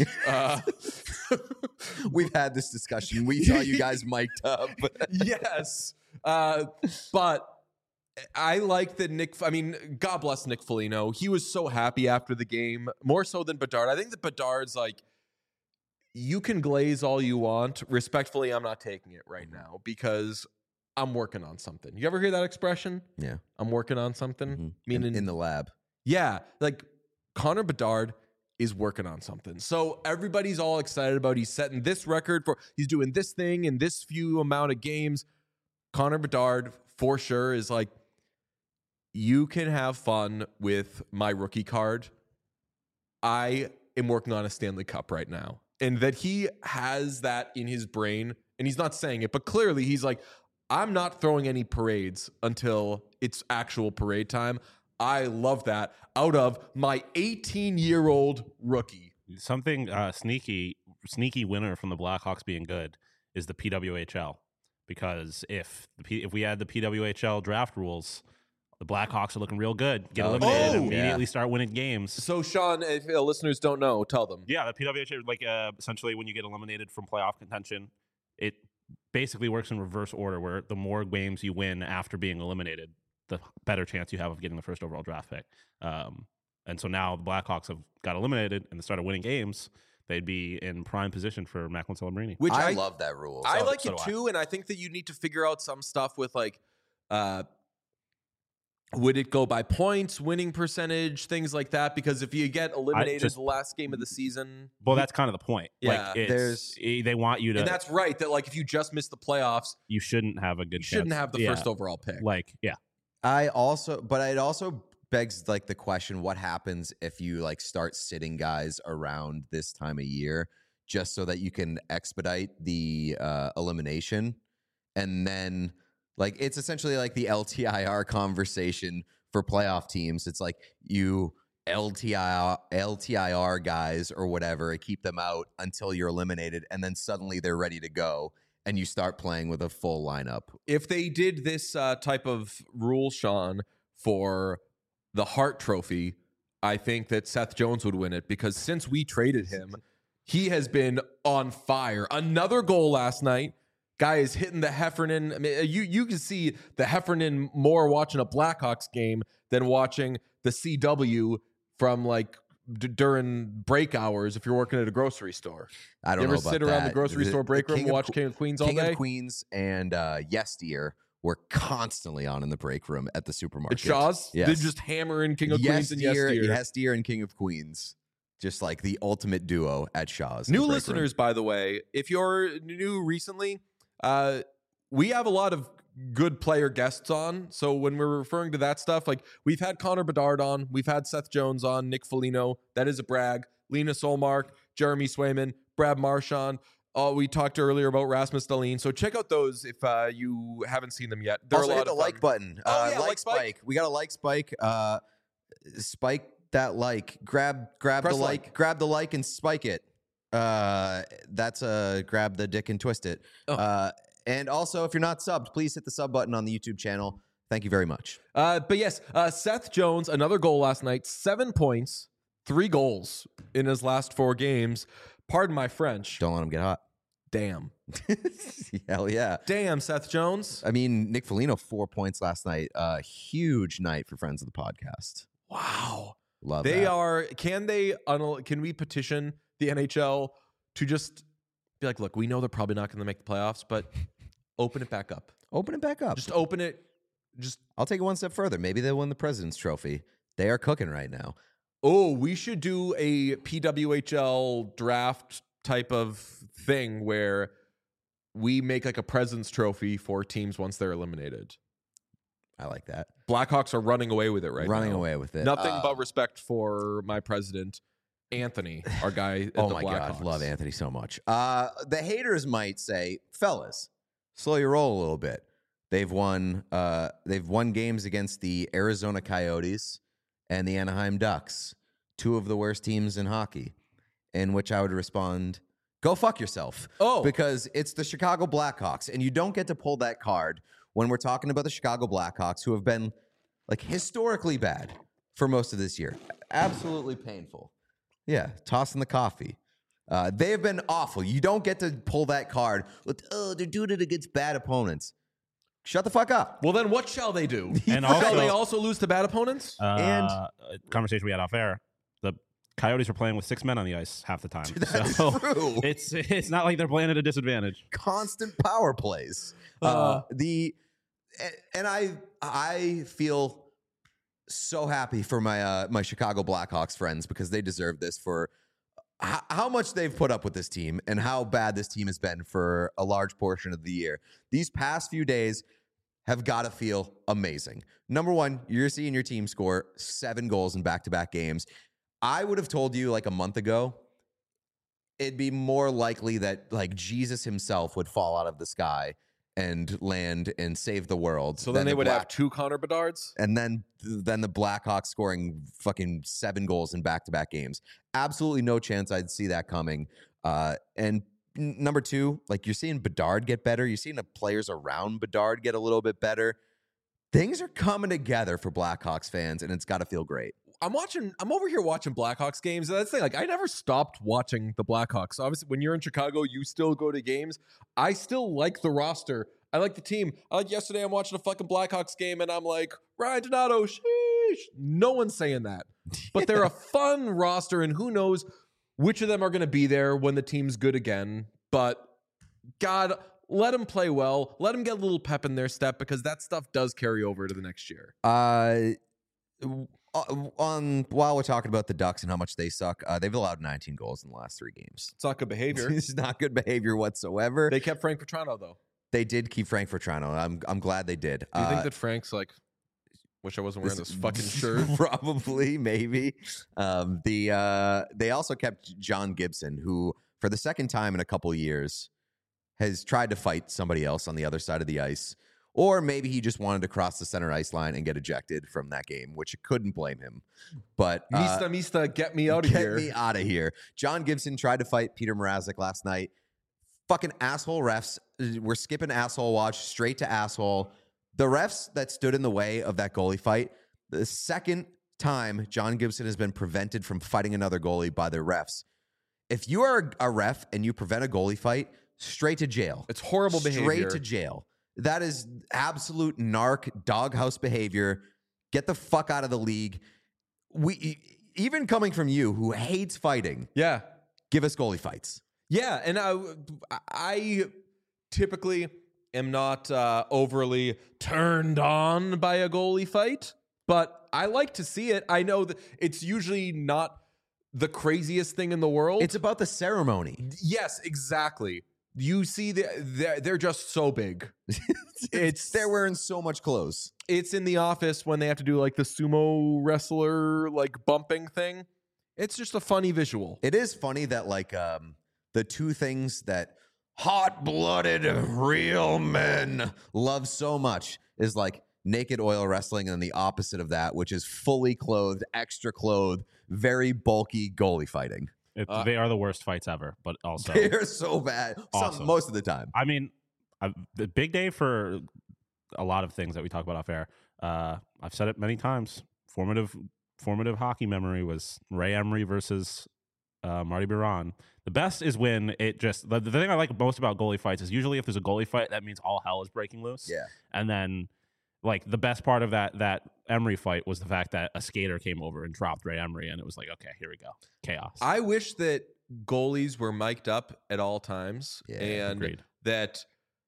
We've had this discussion. We saw you guys mic'd up. Yes. But I like that God bless Nick Foligno. He was so happy after the game, more so than Bedard. I think that Bedard's you can glaze all you want. Respectfully, I'm not taking it right now because I'm working on something. You ever hear that expression? Yeah. I'm working on something. Mm-hmm. Meaning in the lab. Yeah. Connor Bedard is working on something. So everybody's all excited about he's setting this record he's doing this thing in this few amount of games. Connor Bedard for sure is you can have fun with my rookie card. I am working on a Stanley Cup right now. And that he has that in his brain, and he's not saying it, but clearly he's like, I'm not throwing any parades until it's actual parade time. I love that out of my 18-year-old rookie. Something sneaky winner from the Blackhawks being good is the PWHL, because if we had the PWHL draft rules, the Blackhawks are looking real good. Get eliminated, and immediately start winning games. So, Sean, if listeners don't know, tell them. Yeah, the PWHL, like essentially when you get eliminated from playoff contention, it basically works in reverse order, where the more games you win after being eliminated, the better chance you have of getting the first overall draft pick. And so now the Blackhawks have got eliminated and they started winning games. They'd be in prime position for Macklin Celebrini. Which I love that rule. I like it too, and I think that you need to figure out some stuff with like, would it go by points, winning percentage, things like that? Because if you get eliminated the last game of the season, well, that's kind of the point. Yeah, like they want you to, and that's right. That like if you just miss the playoffs, you shouldn't have a good. You shouldn't have the first overall pick. Like, but it also begs like the question: what happens if you like start sitting guys around this time of year just so that you can expedite the elimination, and then. Like, it's essentially like the LTIR conversation for playoff teams. It's like you LTIR guys or whatever, keep them out until you're eliminated, and then suddenly they're ready to go, and you start playing with a full lineup. If they did this type of rule, Sean, for the Hart Trophy, I think that Seth Jones would win it, because since we traded him, he has been on fire. Another goal last night. Guy is hitting the Heffernan. I mean, you can see the Heffernan more watching a Blackhawks game than watching the CW from like during break hours if you're working at a grocery store. I don't know about that. You ever sit around the grocery store break room and watch King of Queens all day? King of Queens and Yes Dear were constantly on in the break room at the supermarket. At Shaw's? Yes. They're just hammering King of Queens and Yes Dear. Yes Dear and King of Queens. Just like the ultimate duo at Shaw's. New listeners, by the way, if you're new recently, we have a lot of good player guests on. So when we're referring to that stuff, like we've had Connor Bedard on, we've had Seth Jones on, Nick Foligno, that is a brag, Lena Solmark, Jeremy Swayman, Brad Marchand. We talked earlier about Rasmus Dahlin. So check out those if you haven't seen them yet. They're also a lot hit the of like button. like Spike. We got a like Spike. Spike that like. Grab Press the like. Grab the like and spike it. That's grab the dick and twist it. And also, if you're not subbed, please hit the sub button on the YouTube channel. Thank you very much. But yes, Seth Jones, another goal last night, 7 points, 3 goals in his last 4 games. Pardon my French. Don't let him get hot. Damn. Hell yeah. Damn, Seth Jones. I mean, Nick Foligno, 4 points last night. Huge night for friends of the podcast. Wow. Love they that. are. Can we petition the NHL to just be like, look, we know they're probably not going to make the playoffs, but open it back up. Open it back up. Just open it. I'll take it one step further. Maybe they'll win the President's Trophy. They are cooking right now. Oh, we should do a PWHL draft type of thing where we make like a President's Trophy for teams once they're eliminated. I like that. Blackhawks are running away with it right now. Running away with it. Nothing but respect for my president, Anthony, our guy at the Blackhawks. God, love Anthony so much. The haters might say, fellas, slow your roll a little bit. They've won games against the Arizona Coyotes and the Anaheim Ducks, 2 of the worst teams in hockey, in which I would respond, go fuck yourself. Oh. Because it's the Chicago Blackhawks, and you don't get to pull that card when we're talking about the Chicago Blackhawks, who have been like historically bad for most of this year. Absolutely painful. Yeah, tossing the coffee. They have been awful. You don't get to pull that card with, they're doing it against bad opponents. Shut the fuck up. Well, then what shall they do? And shall they also lose to bad opponents? And conversation we had off air, the Coyotes were playing with 6 men on the ice half the time. That's so true. It's not like they're playing at a disadvantage. Constant power plays. I feel so happy for my Chicago Blackhawks friends, because they deserve this for how much they've put up with this team and how bad this team has been for a large portion of the year. These past few days have got to feel amazing. Number one, you're seeing your team score 7 goals in back-to-back games. I would have told you like a month ago, it'd be more likely that like Jesus himself would fall out of the sky and land and save the world. So then they would have 2 Connor Bedards? And then the Blackhawks scoring fucking 7 goals in back-to-back games. Absolutely no chance I'd see that coming. And number 2, like, you're seeing Bedard get better. You're seeing the players around Bedard get a little bit better. Things are coming together for Blackhawks fans, and it's got to feel great. I'm over here watching Blackhawks games. And that's the thing. Like, I never stopped watching the Blackhawks. Obviously, when you're in Chicago, you still go to games. I still like the roster. I like the team. Like yesterday, I'm watching a fucking Blackhawks game, and I'm like, Ryan Donato, sheesh. No one's saying that. But they're a fun roster, and who knows which of them are going to be there when the team's good again. But, God, let them play well. Let them get a little pep in their step, because that stuff does carry over to the next year. While we're talking about the Ducks and how much they suck, they've allowed 19 goals in the last 3 games. It's not good behavior. It's not good behavior whatsoever. They kept Frank Petrano, though. They did keep Frank Petrano. I'm glad they did. Do you think that Frank's like, wish I wasn't wearing this fucking shirt? Probably, maybe. They also kept John Gibson, who for the second time in a couple years has tried to fight somebody else on the other side of the ice. Or maybe he just wanted to cross the center ice line and get ejected from that game, which couldn't blame him. But Mista, get me out of here. Get me out of here. John Gibson tried to fight Peter Mrazek last night. Fucking asshole refs. We're skipping asshole watch straight to asshole. The refs that stood in the way of that goalie fight, the second time John Gibson has been prevented from fighting another goalie by the refs. If you are a ref and you prevent a goalie fight, straight to jail. It's horrible behavior. Straight to jail. That is absolute narc doghouse behavior. Get the fuck out of the league. Even coming from you, who hates fighting. Yeah. Give us goalie fights. Yeah, and I typically am not overly turned on by a goalie fight, but I like to see it. I know that it's usually not the craziest thing in the world. It's about the ceremony. Yes, exactly. You see, they're just so big. They're wearing so much clothes. It's in The Office when they have to do like the sumo wrestler like bumping thing. It's just a funny visual. It is funny that like the two things that hot-blooded real men love so much is like naked oil wrestling, and then the opposite of that, which is fully clothed, extra clothed, very bulky goalie fighting. They are the worst fights ever, but also they're so bad. Awesome. Most of the time. I mean, the big day for a lot of things that we talk about off air. I've said it many times. Formative hockey memory was Ray Emery versus Marty Biron. The best is when it just the thing I like most about goalie fights is usually if there's a goalie fight, that means all hell is breaking loose. Yeah, and then. Like the best part of that Emery fight was the fact that a skater came over and dropped Ray Emery, and it was like, okay, here we go, chaos. I wish that goalies were mic'd up at all times, and agreed. That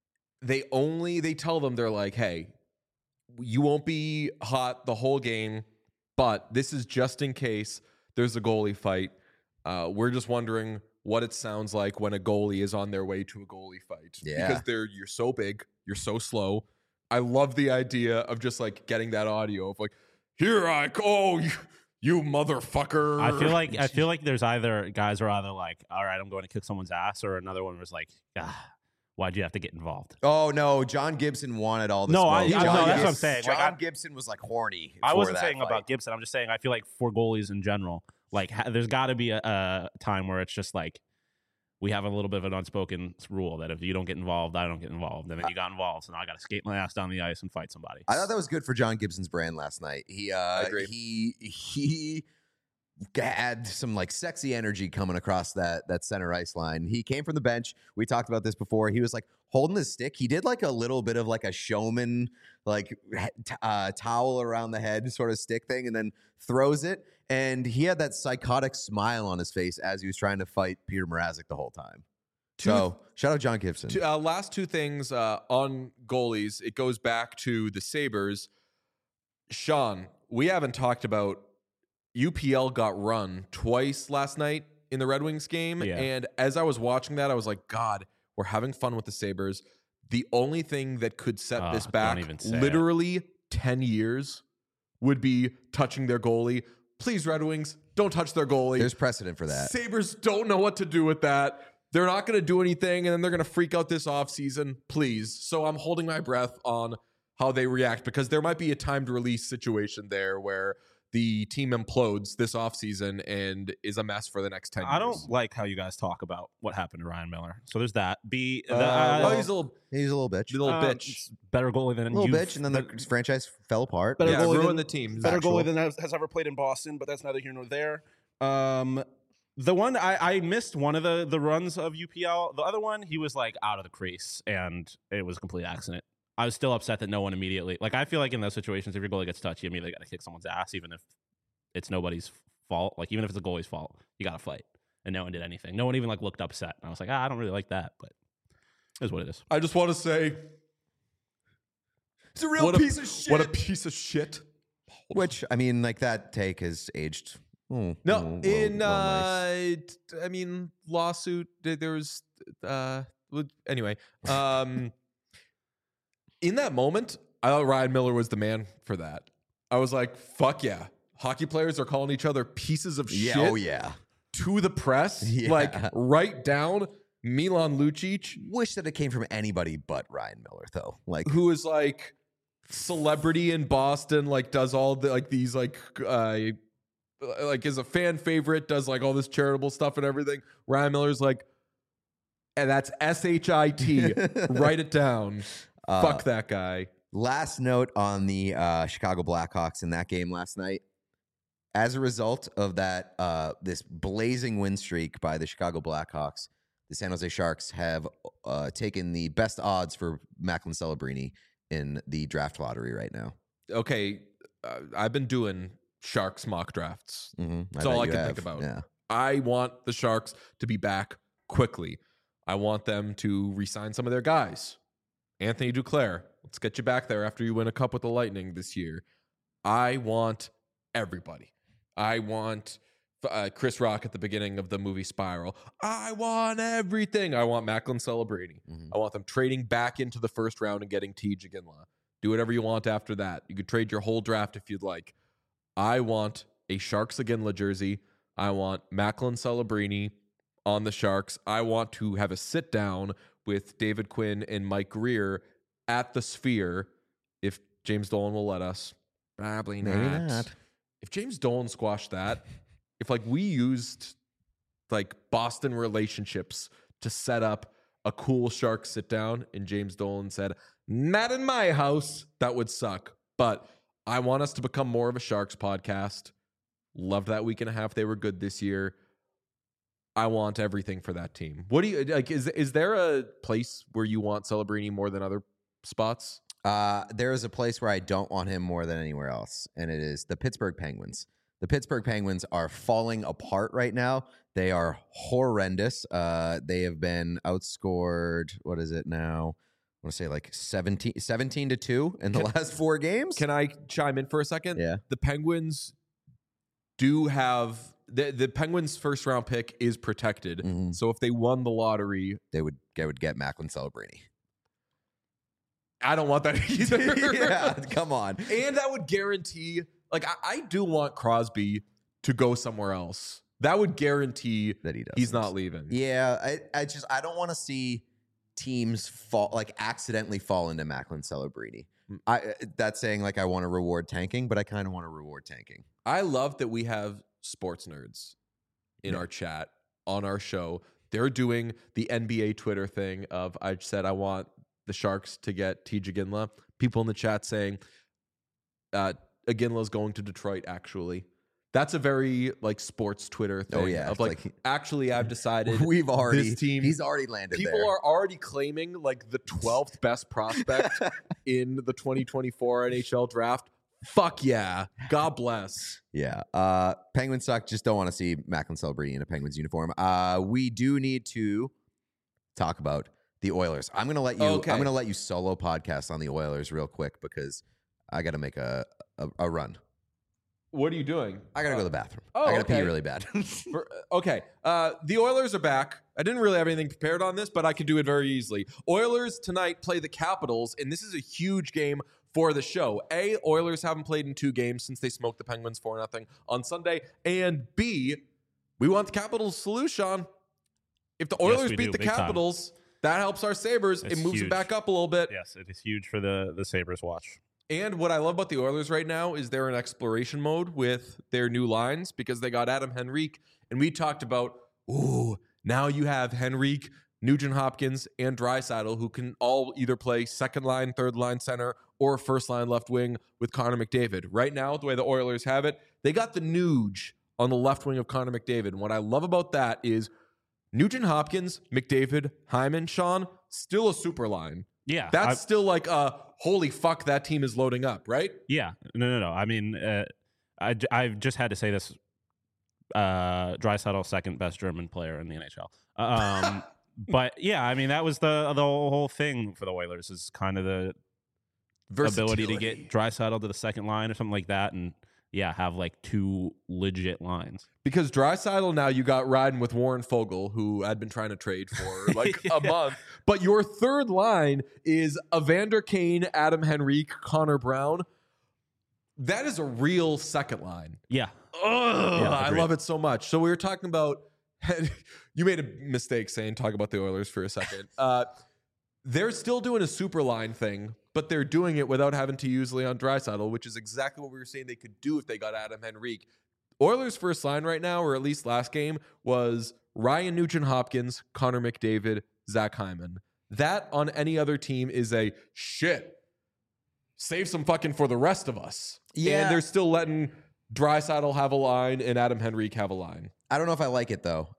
they tell them, they're like, hey, you won't be hot the whole game, but this is just in case there's a goalie fight. We're just wondering what it sounds like when a goalie is on their way to a goalie fight. Yeah, because you're so big, you're so slow. I love the idea of just like getting that audio of like, here I go, you motherfucker. I feel like there's either guys are either like, all right, I'm going to kick someone's ass, or another one was like, why'd you have to get involved? Oh no, John Gibson wanted all the no, smoke. no, that's what I'm saying. John Gibson was like horny. I wasn't saying fight. About Gibson. I'm just saying I feel like for goalies in general, like there's got to be a time where it's just like, we have a little bit of an unspoken rule that if you don't get involved, I don't get involved. And then you got involved, so now I got to skate my ass down the ice and fight somebody. I thought that was good for John Gibson's brand last night. I agree. He had some like sexy energy coming across that center ice line. He came from the bench. We talked about this before. He was like holding his stick. He did like a little bit of like a showman, like towel around the head sort of stick thing, and then throws it. And he had that psychotic smile on his face as he was trying to fight Peter Mrazek the whole time. So shout out John Gibson. Last two things on goalies. It goes back to the Sabres. Sean, we haven't talked about UPL got run twice last night in the Red Wings game. Yeah. And as I was watching that, I was like, God, we're having fun with the Sabres. The only thing that could set this back literally 10 years would be touching their goalie. Please, Red Wings, don't touch their goalie. There's precedent for that. Sabres don't know what to do with that. they're not going to do anything, and then they're going to freak out this offseason. Please. So I'm holding my breath on how they react, because there might be a timed release situation there where the team implodes this offseason and is a mess for the next 10 years. I don't like how you guys talk about what happened to Ryan Miller. So there's that. He's a little bitch. bitch. Better goalie than Little bitch, and then the franchise fell apart. Better goalie ruined than the team. Better goalie than has ever played in Boston, but that's neither here nor there. The one I missed one of the runs of UPL. The other one, he was like out of the crease, and it was a complete accident. I was still upset that no one immediately, like, I feel like in those situations, if your goalie gets touched, you immediately got to kick someone's ass, even if it's nobody's fault. Like, even if it's a goalie's fault, you got to fight. And no one did anything. No one even like looked upset. And I was like, I don't really like that, but it is what it is. I just want to say, It's a real piece of shit. What a piece of shit. Which, I mean, like, that take has aged. I mean, lawsuit. There was anyway. In that moment, I thought Ryan Miller was the man for that. I was like, fuck yeah. Hockey players are calling each other pieces of shit. Oh, yeah. To the press. Yeah. Like, right down Milan Lucic. Wish that it came from anybody but Ryan Miller, though. Like, Who is like celebrity in Boston, like does all the like these like is a fan favorite, does like all this charitable stuff and everything. Ryan Miller's like, and that's SHIT. Write it down. Fuck that guy. Last note on the Chicago Blackhawks in that game last night. As a result of that, this blazing win streak by the Chicago Blackhawks, the San Jose Sharks have taken the best odds for Macklin Celebrini in the draft lottery right now. Okay, I've been doing Sharks mock drafts. Mm-hmm. That's all I can think about. Yeah. I want the Sharks to be back quickly. I want them to re-sign some of their guys. Anthony Duclair, let's get you back there after you win a cup with the Lightning this year. I want everybody. I want Chris Rock at the beginning of the movie Spiral. I want everything. I want Macklin Celebrini. Mm-hmm. I want them trading back into the first round and getting T.J. Ginla. Do whatever you want after that. You could trade your whole draft if you'd like. I want a Sharks Ginla jersey. I want Macklin Celebrini on the Sharks. I want to have a sit down with David Quinn and Mike Greer at the Sphere, if James Dolan will let us. Probably Maybe not. If James Dolan squashed that, if like we used like Boston relationships to set up a cool Sharks sit down and James Dolan said, not in my house, that would suck. But I want us to become more of a Sharks podcast. Loved that week and a half. They were good this year. I want everything for that team. What do you like? Is there a place where you want Celebrini more than other spots? There is a place where I don't want him more than anywhere else, and it is the Pittsburgh Penguins. The Pittsburgh Penguins are falling apart right now. They are horrendous. They have been outscored, what is it now? I want to say like 17-2 in the last 4 games. Can I chime in for a second? Yeah. The Penguins do have the Penguins' first round pick is protected. Mhm. So if they won the lottery, They would get Macklin Celebrini. I don't want that either. Yeah, come on. And that would guarantee, like, I do want Crosby to go somewhere else. That would guarantee That he does. he's not leaving. Yeah, I don't want to see teams accidentally fall into Macklin Celebrini. That's saying like I want to reward tanking, but I kind of want to reward tanking. I love that we have sports nerds in our chat on our show. They're doing the NBA Twitter thing of I said I want the Sharks to get T.J. Ginla. People in the chat saying Ginla's going to Detroit, actually. That's a very like sports Twitter thing. Oh, yeah. Of like actually I've decided this team. He's already landed People there. are already claiming like the 12th best prospect in the 2024 NHL draft. Fuck yeah. God bless. Yeah. Penguins suck. Just don't want to see Macklin Celebrini in a Penguins uniform. We do need to talk about the Oilers. I'm gonna let you solo podcast on the Oilers real quick because I gotta make a run. What are you doing? I gotta go to the bathroom. Oh, I gotta okay. pee really bad. Okay. The Oilers are back. I didn't really have anything prepared on this, but I could do it very easily. Oilers tonight play the Capitals, and this is a huge game for the show. A, Oilers haven't played in 2 games since they smoked the Penguins 4-0 on Sunday. And B, we want the Capitals to lose, Sean. If the Yes, Oilers we beat do, the big time. Capitals, that helps our Sabres. It's It moves them huge. back up a little bit. Yes, it is huge for the Sabres watch. And what I love about the Oilers right now is they're in exploration mode with their new lines because they got Adam Henrique. And we talked about, now you have Henrique, Nugent Hopkins, and Draisaitl, who can all either play second line, third line center, or first line left wing with Connor McDavid. Right now, the way the Oilers have it, they got the Nuge on the left wing of Connor McDavid. And what I love about that is Nugent Hopkins, McDavid, Hyman, Sean, still a super line. Yeah, That's still like holy fuck, that team is loading up, right? Yeah, no. I mean, I've just had to say this. Draisaitl, second best German player in the NHL. But yeah, I mean, that was the whole thing for the Oilers is kind of the ability to get Draisaitl to the second line or something like that, and yeah, have like two legit lines. Because Draisaitl now you got riding with Warren Fogle, who I'd been trying to trade for like a month. But your third line is Evander Kane, Adam Henrique, Connor Brown. That is a real second line. Yeah. I love it so much. So we were talking about you made a mistake saying talk about the Oilers for a second. They're still doing a super line thing, but they're doing it without having to use Leon Draisaitl, which is exactly what we were saying they could do if they got Adam Henrique. Oilers' first line right now, or at least last game, was Ryan Nugent-Hopkins, Connor McDavid, Zach Hyman. That on any other team is a shit. Save some fucking for the rest of us. Yeah. And they're still letting Draisaitl have a line and Adam Henrique have a line. I don't know if I like it though.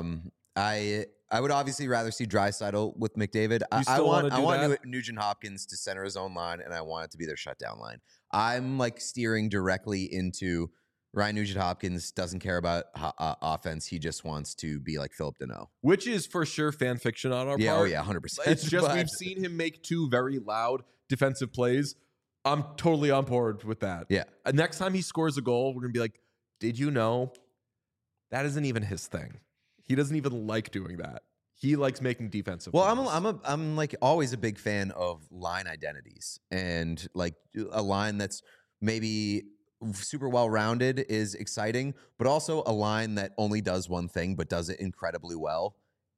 I would obviously rather see Draisaitl with McDavid. I want Nugent Hopkins to center his own line, and I want it to be their shutdown line. I'm like steering directly into Ryan Nugent Hopkins doesn't care about offense. He just wants to be like Philip Deneau, which is for sure fan fiction on our part. Oh yeah, 100%. It's just we've seen him make two very loud defensive plays. I'm totally on board with that. Yeah. Next time he scores a goal, we're gonna be like, did you know that isn't even his thing? He doesn't even like doing that. He likes making defensive plays. I'm like always a big fan of line identities, and like a line that's maybe super well rounded is exciting, but also a line that only does one thing but does it incredibly well.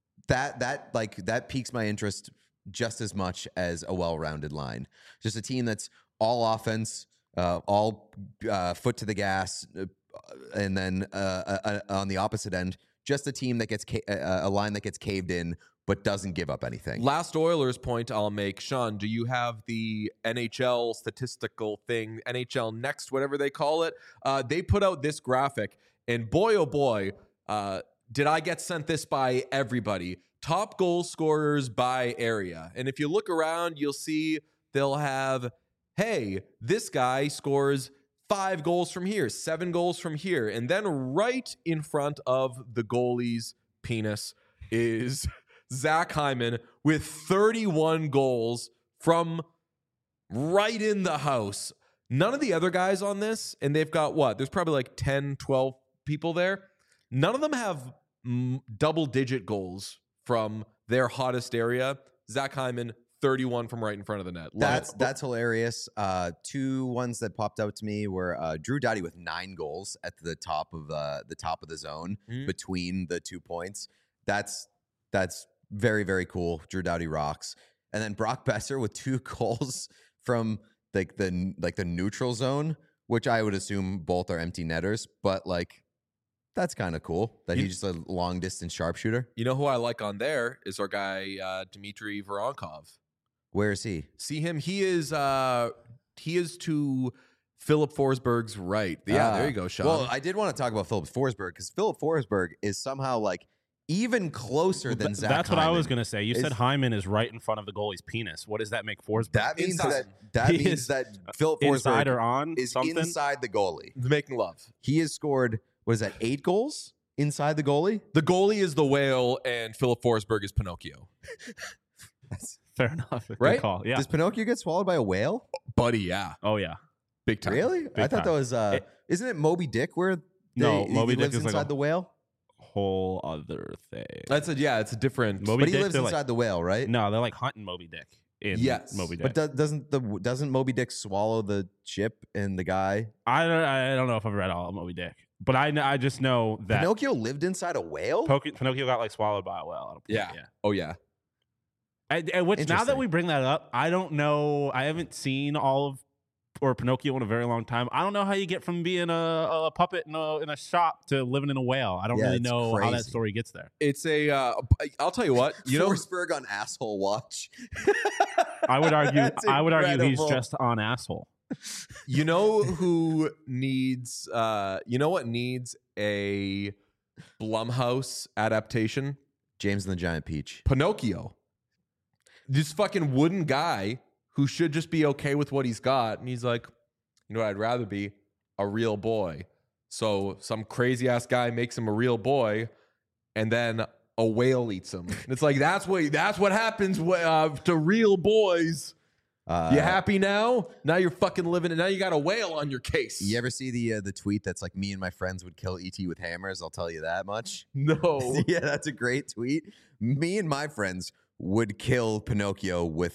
That piques my interest just as much as a well-rounded line. Just a team that's all offense, all foot to the gas, and then on the opposite end, just a team that gets a line that gets caved in but doesn't give up anything. Last Oilers point I'll make, Sean, do you have the NHL statistical thing, NHL Next, whatever they call it? They put out this graphic, and boy, oh boy, did I get sent this by everybody. Top goal scorers by area. And if you look around, you'll see they'll have, hey, this guy scores 5 goals from here, 7 goals from here. And then right in front of the goalie's penis is Zach Hyman with 31 goals from right in the house. None of the other guys on this, and they've got what? There's probably like 10, 12 people there. None of them have double-digit goals from their hottest area. Zach Hyman, 31 from right in front of the net. That's hilarious. 2 ones that popped out to me were Drew Doughty with 9 goals at the top of the zone between the 2 points. That's very, very cool. Drew Doughty rocks. And then Brock Besser with 2 goals from like the neutral zone, which I would assume both are empty netters, but like that's kind of cool that he's just a long distance sharpshooter. You know who I like on there is our guy Dmitry Voronkov. Where is he? See him? He is to Philip Forsberg's right. Yeah, there you go, Sean. Well, I did want to talk about Philip Forsberg because Philip Forsberg is somehow like even closer than Zach That's Hyman. what I was going to say. You said Hyman is right in front of the goalie's penis. What does that make Forsberg? That means that Philip Forsberg inside or on is something? inside the goalie. Making love. He has scored, what is that, 8 goals inside the goalie? The goalie is the whale and Philip Forsberg is Pinocchio. That's fair enough. Good right? call. Yeah. Does Pinocchio get swallowed by a whale? Buddy, yeah. Oh, yeah. Big time. Really? I thought that was, isn't it Moby Dick where Moby Dick lives is inside like the whale? Whole other thing. It's a different. Moby But he Dick, lives inside the whale, right? No, they're like hunting Moby Dick in Yes. Moby Dick. But doesn't Moby Dick swallow the ship and the guy? I don't know if I've read all of Moby Dick. But I just know that Pinocchio lived inside a whale? Pinocchio got like swallowed by a whale at a point. Yeah. Yeah. Oh yeah. And which now that Interesting. we bring that up, I don't know. I haven't seen all of or Pinocchio in a very long time. I don't know how you get from being a puppet in a shop to living in a whale. I don't Yeah, really it's know how that crazy. story gets there. It's a. I'll tell you what. You know, Forsberg on asshole watch. I would argue. That's I would argue he's incredible. just on asshole. you know who needs. You know what needs a Blumhouse adaptation? James and the Giant Peach. Pinocchio. This fucking wooden guy who should just be okay with what he's got. And he's like, you know what, I'd rather be a real boy. So some crazy ass guy makes him a real boy, and then a whale eats him. And it's like, that's what happens to real boys. You happy now? Now you're fucking living, and now you got a whale on your case. You ever see the tweet that's like, me and my friends would kill E.T. with hammers? I'll tell you that much. No. Yeah, that's a great tweet. Me and my friends would kill Pinocchio with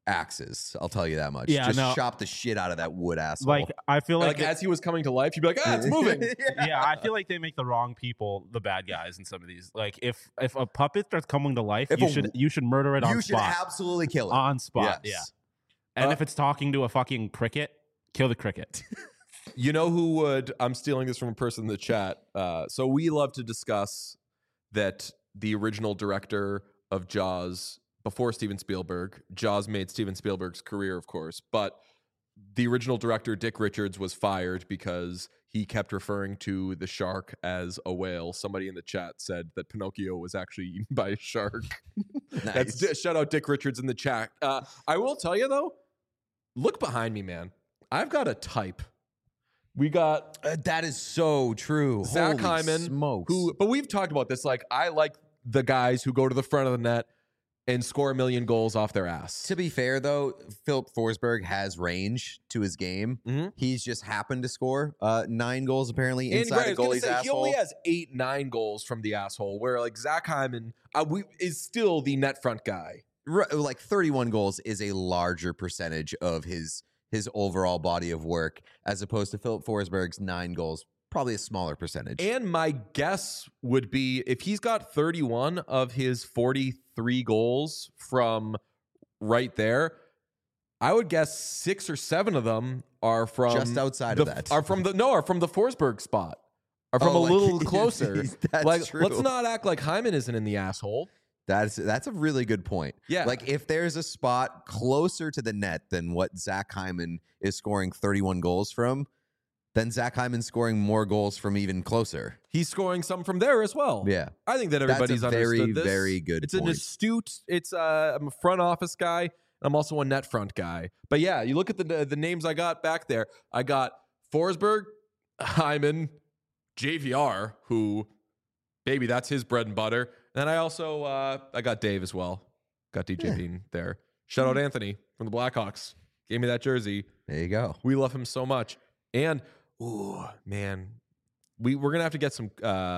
axes. I'll tell you that much. Yeah, Just no. chop the shit out of that wood asshole. Like I feel Like like as he was coming to life, you'd be like, it's moving. yeah, I feel like they make the wrong people the bad guys in some of these. Like if a puppet starts coming to life, If you should murder it on You should spot. absolutely kill it. On spot, Yes. yeah. And if it's talking to a fucking cricket, kill the cricket. You know who would? I'm stealing this from a person in the chat. So we love to discuss that the original director of Jaws, before Steven Spielberg, Jaws made Steven Spielberg's career, of course, but the original director, Dick Richards, was fired because he kept referring to the shark as a whale. Somebody in the chat said that Pinocchio was actually eaten by a shark. Nice. Shout out Dick Richards in the chat. I will tell you though, look behind me, man. I've got a type. We got That is so true. Zach Holy Hyman, smokes. but we've talked about this. Like, I like the guys who go to the front of the net and score a million goals off their ass. To be fair, though, Philip Forsberg has range to his game. Mhm. He's just happened to score 9 goals apparently And inside right, I a was gonna goalie's say, he asshole. only has 8-9 goals from the asshole, where like Zach Hyman is still the net front guy. Like 31 goals is a larger percentage of his overall body of work as opposed to Philip Forsberg's 9 goals, probably a smaller percentage. And my guess would be if he's got 31 of his 43 goals from right there, I would guess 6 or 7 of them are from Just outside of that. Are from the Forsberg spot. Are from Oh, a like, little closer. that's like, true. let's not act like Hyman isn't in the asshole. That's a really good point. Yeah. Like if there's a spot closer to the net than what Zach Hyman is scoring 31 goals from, then Zach Hyman's scoring more goals from even closer. He's scoring some from there as well. Yeah. I think that That's a everybody's very, understood this. very good It's an point. astute. I'm a front office guy. I'm also a net front guy. But yeah, you look at the names I got back there. I got Forsberg, Hyman, JVR, who, baby, that's his bread and butter. And I also I got Dave as well. Got DJ Bean there. Shout out Anthony from the Blackhawks. Gave me that jersey. There you go. We love him so much. And ooh, man, we're gonna have to get some.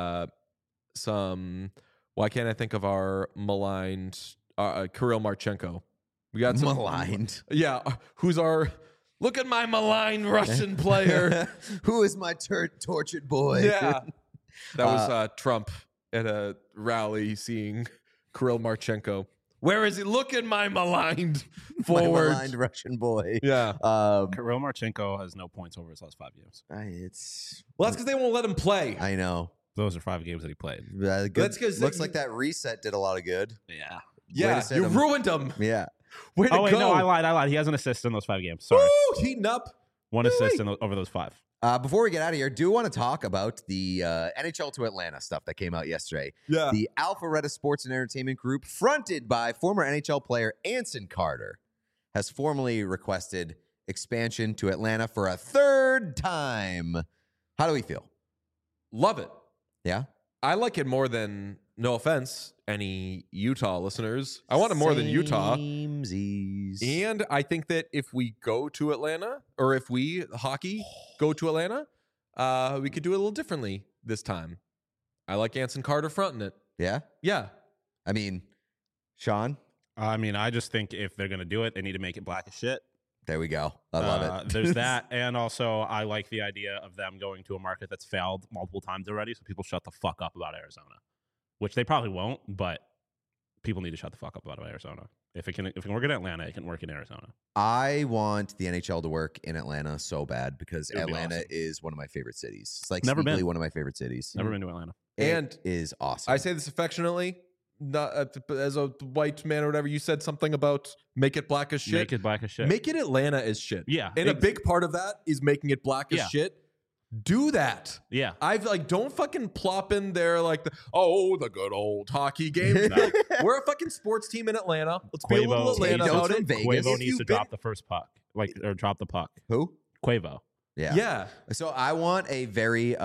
Why can't I think of our maligned Kirill Marchenko? We got some Maligned. Yeah, who's our? Look at my maligned Russian player. Who is my tortured boy? Yeah, that was Trump at a rally seeing Kirill Marchenko. Where is he? Look at my maligned My forward. maligned Russian boy. Yeah. Kirill Marchenko has no points over his last 5 games. It's. Well, that's because they won't let him play. I know. Those are 5 games that he played. Good. That's 'cause Looks they- like that reset did a lot of good. Yeah. Yeah, to set you him. ruined him. Yeah. Way to Oh wait, go. no, I lied. He has an assist in those 5 games. Sorry, Woo, heating up. 1 assist over those 5. Before we get out of here, do want to talk about the NHL to Atlanta stuff that came out yesterday. Yeah. The Alpharetta Sports and Entertainment Group, fronted by former NHL player Anson Carter, has formally requested expansion to Atlanta for a 3rd time. How do we feel? Love it. Yeah? I like it more than, no offense, any Utah listeners. I want it more than Utah. Samesies. And I think that if we go to Atlanta, or if we, hockey, go to Atlanta, we could do it a little differently this time. I like Anson Carter fronting it. Yeah? Yeah. I mean, Sean? I mean, I just think if they're gonna do it, they need to make it black as shit. There we go. I love it. There's that, and also I like the idea of them going to a market that's failed multiple times already, so people shut the fuck up about Arizona, which they probably won't, but people need to shut the fuck up about Arizona. If it can work in Atlanta, it can work in Arizona. I want the NHL to work in Atlanta so bad because It would be Atlanta awesome. is one of my favorite cities. It's like Never sneakily been. one of my favorite cities. Never been to Atlanta. And It is awesome. I say this affectionately, not as a white man or whatever. You said something about make it black as shit. Make it black as shit. Make it Atlanta as shit. Yeah, And a big part of that is making it black as Yeah. shit. Do that. Yeah. I've like, don't fucking plop in there like the good old hockey games. No. Like, we're a fucking sports team in Atlanta. Let's be a little Quavo Atlanta Take about notes it. from Vegas. Quavo If needs you've to been- drop the first puck, or drop the puck. Who? Quavo. Yeah. So I want a very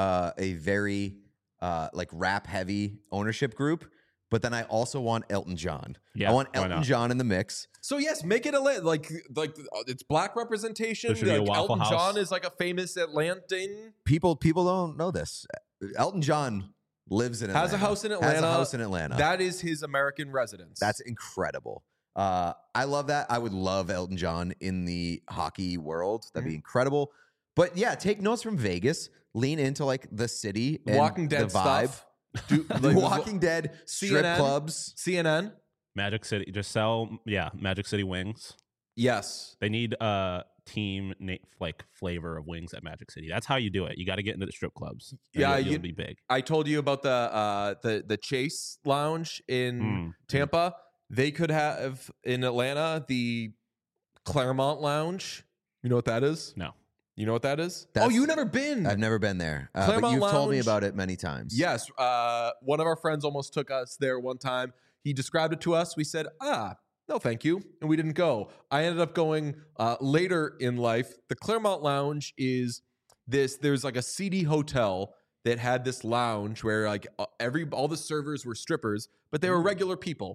like rap heavy ownership group, but then I also want Elton John. Yeah, I want why Elton not? John in the mix. So yes, make it Atlanta. Like it's black representation. There should be a Like, Waffle Elton House. John is like a famous Atlantan. People don't know this. Elton John lives in Atlanta. Has a house in Has Atlanta. a house in Atlanta. That is his American residence. That's incredible. I love that. I would love Elton John in the hockey world. That'd be incredible. But yeah, take notes from Vegas. Lean into like the city, and Walking Dead the vibe. stuff. Do, The Walking Dead, strip CNN? clubs. CNN. Magic City. Just sell, Magic City wings. Yes. They need a team like flavor of wings at Magic City. That's how you do it. You got to get into the strip clubs. And Yeah, you'll you- be big. I told you about the Chase Lounge in Tampa. They could have in Atlanta the Claremont Lounge. You know what that is? No. You know what that is? That's- Oh, you never been? I've never been there, but Claremont you've told me Lounge. about it many times. Yes. One of our friends almost took us there one time. He described it to us. We said, no, thank you. And we didn't go. I ended up going later in life. The Claremont Lounge is there's like a seedy hotel that had this lounge where like all the servers were strippers, but they were regular people.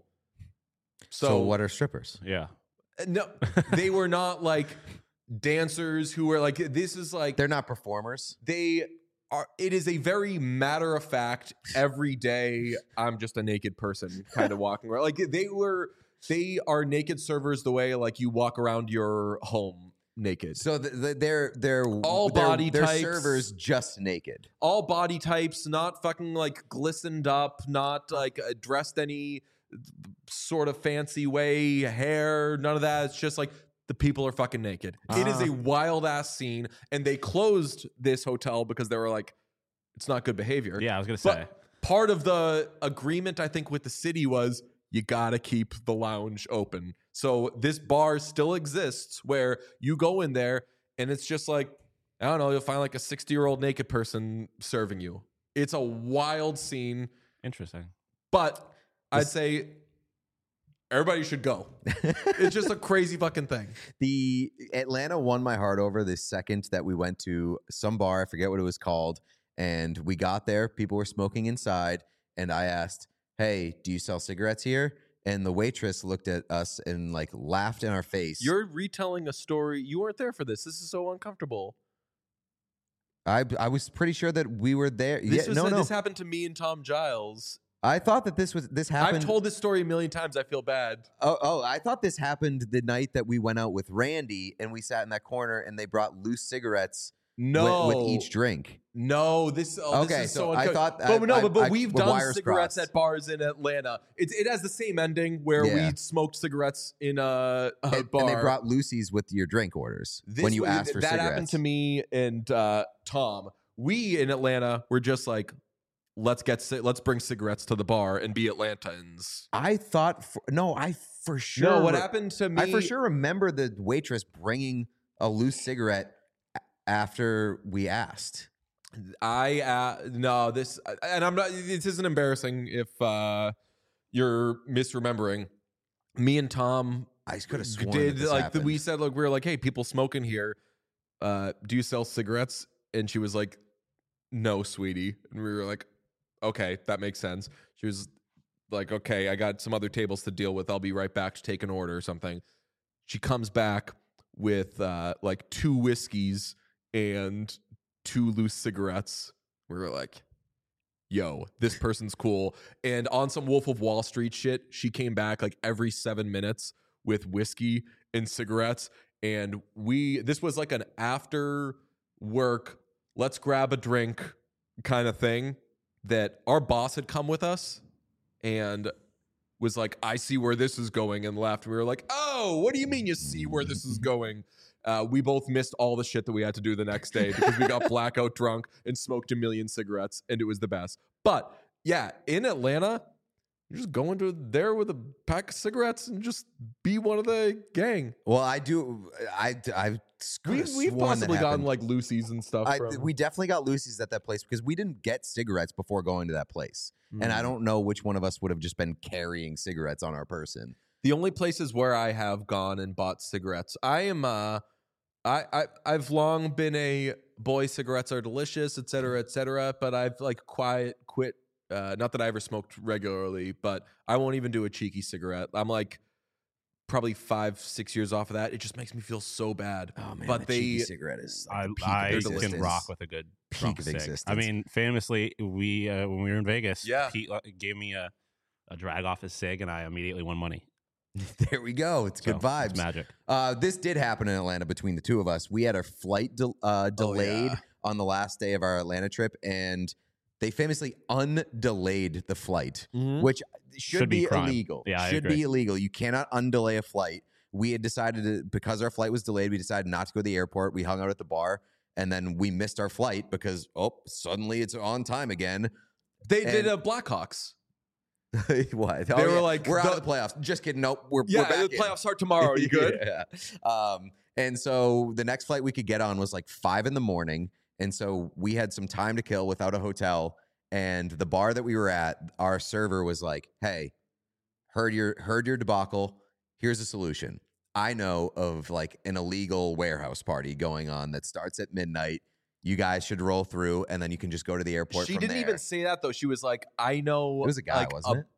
So what are strippers? Yeah. No, they were not like dancers who were like, this is like, They're not performers. they are, it is a very matter of fact, every day I'm just a naked person kind of walking around. Like they are naked servers the way like you walk around your home naked. So they're All body they're types. servers just naked. All body types, not fucking like glistened up, not like dressed any sort of fancy way, hair, none of that. It's just like the people are fucking naked. It is a wild ass scene, and they closed this hotel because they were like, it's not good behavior. Yeah, I was going to say. But part of the agreement, I think, with the city was you got to keep the lounge open. So this bar still exists where you go in there and it's just like, I don't know, you'll find like a 60-year-old naked person serving you. It's a wild scene, Interesting. but I'd say everybody should go. It's just a crazy fucking thing. The Atlanta won my heart over the second that we went to some bar. I forget what it was called. And we got there. People were smoking inside. And I asked, hey, do you sell cigarettes here? And the waitress looked at us and like laughed in our face. You're retelling a story. You weren't there for this. This is so uncomfortable. I was pretty sure that we were there. This Yeah, was no. This happened to me and Tom Giles. I thought that this happened. I've told this story a million times. I feel bad. Oh, I thought this happened the night that we went out with Randy and we sat in that corner and they brought loose cigarettes No, with each drink. No, this. Oh, Okay, this is so so I uncomfortable. thought- but I- we've the done wires cigarettes crossed. at bars in Atlanta. It has the same ending where Yeah. we smoked cigarettes in a And, bar. and they brought Lucy's with your drink orders This when you was- asked for that cigarettes. happened to me and Tom. We in Atlanta were just like, let's bring cigarettes to the bar and be Atlantans. I thought, I for sure. No, what happened to me? I for sure remember the waitress bringing a loose cigarette after we asked. No, this, and I'm not. This isn't embarrassing if you're misremembering. Me and Tom I could have sworn did that this like happened. we said, look, we were like, hey, people smoking here. Do you sell cigarettes? And she was like, no, sweetie. And we were like, okay, that makes sense. She was like, okay, I got some other tables to deal with. I'll be right back to take an order or something. She comes back with like 2 whiskeys and 2 loose cigarettes. We were like, yo, this person's cool. And on some Wolf of Wall Street shit, she came back like every 7 minutes with whiskey and cigarettes. and this was like an after work, let's grab a drink kind of thing that our boss had come with us and was like, I see where this is going, and laughed. We were like, oh, what do you mean you see where this is going? We both missed all the shit that we had to do the next day because we got blackout drunk and smoked a million cigarettes, and it was the best. But yeah, in Atlanta, you just go into there with a pack of cigarettes and just be one of the gang. Well, I do. We've possibly gotten like Lucy's and stuff. We definitely got Lucy's at that place because we didn't get cigarettes before going to that place. And I don't know which one of us would have just been carrying cigarettes on our person. The only places where I have gone and bought cigarettes, I've long been a boy, cigarettes are delicious, et cetera, but I've like quit. Not that I ever smoked regularly, but I won't even do a cheeky cigarette. I'm like probably 5-6 years off of that. It just makes me feel so bad. Oh man, but cheeky cigarette is like I can rock with a good peak of cig. existence. I mean, famously, we when we were in Vegas, Yeah. Pete gave me a drag off his cig, and I immediately won money. There we go. It's good vibes. It's magic. This did happen in Atlanta between the two of us. We had our flight delayed on the last day of our Atlanta trip, and they famously undelayed the flight, which should be crime. illegal. Yeah, I should agree. be illegal. You cannot undelay a flight. We had decided because our flight was delayed, we decided not to go to the airport. We hung out at the bar, and then we missed our flight because suddenly it's on time again. They did Blackhawks. What? They were like, we're out of the playoffs. Just kidding. Nope. We're Yeah, back the in. playoffs start tomorrow. Are you good? Yeah. And so the next flight we could get on was like 5 a.m. And so we had some time to kill without a hotel. And the bar that we were at, our server was like, hey, heard your debacle. Here's a solution. I know of like an illegal warehouse party going on that starts at midnight. You guys should roll through, and then you can just go to the airport. She from didn't there. even say that though. She was like, "I know." It was a guy, like, wasn't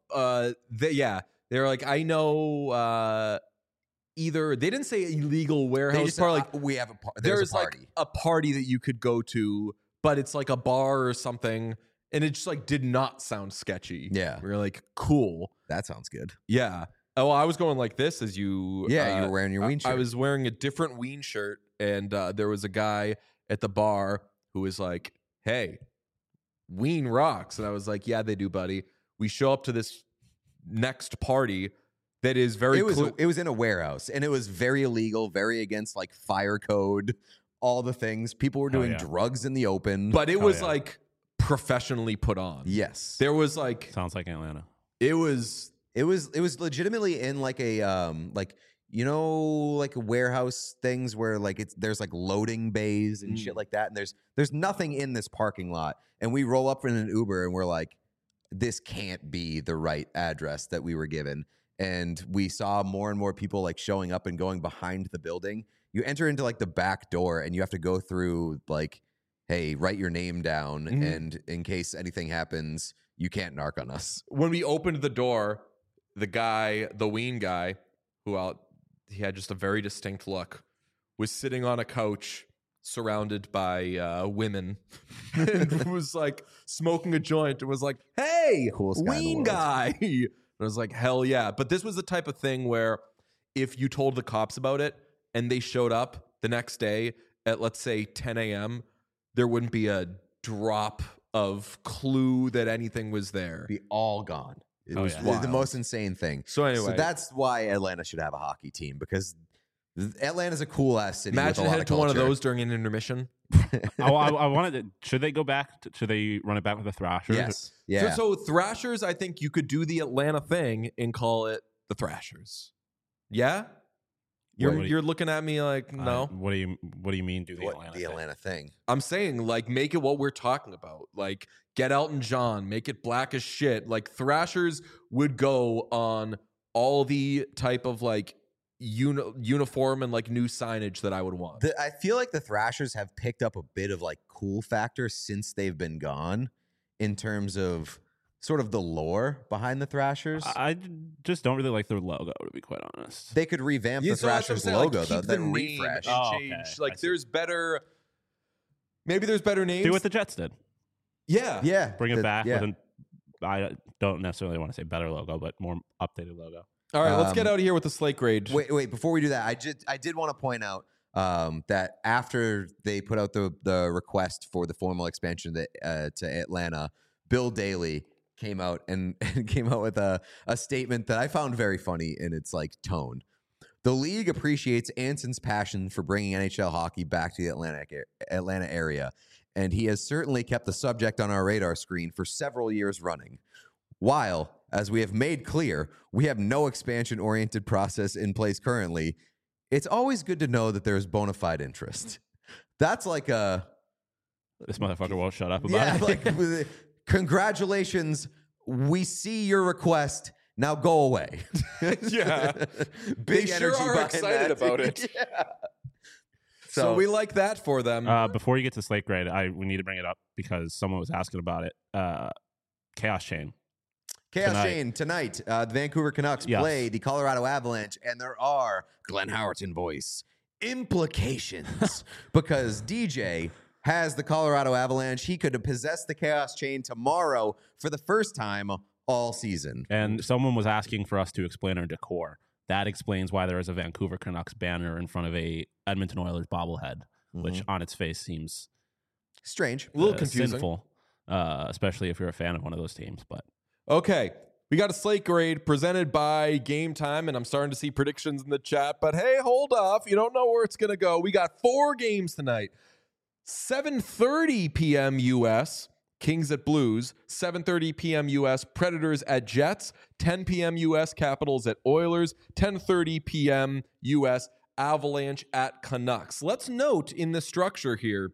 it? They were like, "I know." Either they didn't say illegal They warehouse just party. said, we have There's a party. like a party that you could go to, but it's like a bar or something, and it just like did not sound sketchy. Yeah. We were like, "Cool, That sounds good. yeah." Oh, I was going like this as you. Yeah, you were wearing your Ween shirt. I was wearing a different Ween shirt, and there was a guy at the bar who was like, "Hey, Ween rocks," and I was like, "Yeah, they do, buddy." We show up to this next party that is very. It was in a warehouse, and it was very illegal, very against like fire code, all the things. People were doing drugs in the open, but it was like professionally put on. yes, There was like Sounds like Atlanta. it was it was legitimately in like a like like warehouse things where like there's like loading bays and shit like that, and there's nothing in this parking lot, and we roll up in an Uber and we're like, this can't be the right address that we were given. And we saw more and more people like showing up and going behind the building. You enter into like the back door and you have to go through like, hey, write your name down. And in case anything happens, you can't narc on us. when we opened the door, the Ween guy, he had just a very distinct look, was sitting on a couch surrounded by women and was like smoking a joint and was like, "Hey, Coolest guy in the Ween world." guy." And I was like, "Hell yeah." But this was the type of thing where if you told the cops about it and they showed up the next day at, let's say, 10 a.m., there wouldn't be a drop of clue that anything was there. Be all gone. It was the wild. most insane thing. So anyway, that's why Atlanta should have a hockey team, because Atlanta's a cool ass city. imagine with a lot heading of to one of culture. those during an intermission. I wanted to. Should they go back? Should they run it back with the Thrashers? Yes. Yeah. So Thrashers, I think you could do the Atlanta thing and call it the Thrashers. Yeah? You're looking at me like, no. What do you mean? Do the What, Atlanta? the thing? Atlanta thing. I'm saying, like, make it what we're talking about. Like, get Elton John, make it black as shit. Like, Thrashers would go on all the type of, like, uniform and, like, new signage that I would want. I feel like the Thrashers have picked up a bit of like cool factor since they've been gone, in terms of sort of the lore behind the Thrashers. I just don't really like their logo, to be quite honest. They could revamp the So that's what I'm Thrashers saying, logo like, though. keep the Then name refresh. and Oh, change. okay. I Like, see. there's better. Maybe there's better names. Do what the Jets did. Yeah. Yeah. Bring it back with I don't necessarily want to say better logo, but more updated logo. All right, let's get out of here with the slate grade. Wait. Before we do that, I did want to point out that after they put out the request for the formal expansion to Atlanta, Bill Daly came out and came out with a statement that I found very funny in its like tone. The league appreciates Anson's passion for bringing NHL hockey back to the Atlanta area, and he has certainly kept the subject on our radar screen for several years running. While, as we have made clear, we have no expansion-oriented process in place currently, it's always good to know that there is bona fide interest. That's like a... This motherfucker won't shut up about it. Like, congratulations, we see your request. Now go away. Yeah. Big They energy sure are behind excited that. about it. Yeah. So we like that for them. Before you get to slate grade, we need to bring it up because someone was asking about it. Chaos Chain. Chaos Chain tonight. The Vancouver Canucks play the Colorado Avalanche, and there are Glenn Howerton voice implications because DJ has the Colorado Avalanche. He could possess the Chaos Chain tomorrow for the first time all season. And someone was asking for us to explain our decor. That explains why there is a Vancouver Canucks banner in front of a Edmonton Oilers bobblehead, which on its face seems strange, a little confusing, sinful, especially if you're a fan of one of those teams. But okay, we got a slate grade presented by Game Time, and I'm starting to see predictions in the chat. But hey, hold off. You don't know where it's going to go. We got 4 games tonight. 7:30 p.m. U.S., Kings at Blues. 7:30 p.m. U.S., Predators at Jets. 10 p.m. U.S., Capitals at Oilers. 10:30 p.m. U.S., Avalanche at Canucks. Let's note in the structure here,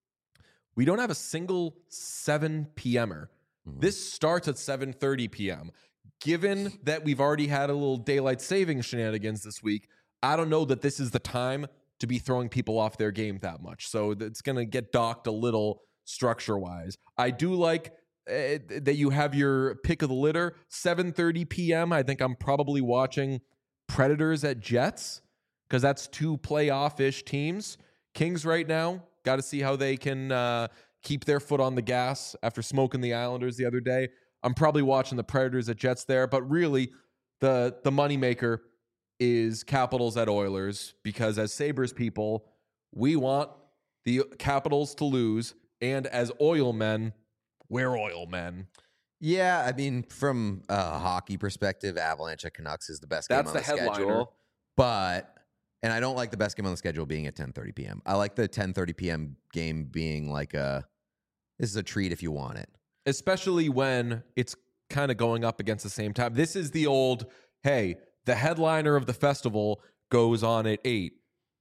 we don't have a single 7 p.m.er. This starts at 7:30 p.m. Given that we've already had a little daylight savings shenanigans this week, I don't know that this is the time to be throwing people off their game that much. So it's going to get docked a little structure-wise. I do like that you have your pick of the litter. 7:30 p.m., I think I'm probably watching Predators at Jets because that's 2 playoff-ish teams. Kings right now, got to see how they can keep their foot on the gas after smoking the Islanders the other day. I'm probably watching the Predators at Jets there, but really the moneymaker is Capitals at Oilers because as Sabres people, we want the Capitals to lose, and as oil men, we're oil men. Yeah, I mean, from a hockey perspective, Avalanche at Canucks is the best game on the schedule. But, and I don't like the best game on the schedule being at 10:30 p.m. I like the 10:30 p.m. game being like this is a treat if you want it. Especially when it's kind of going up against the same time. This is the old, hey, the headliner of the festival goes on at 8.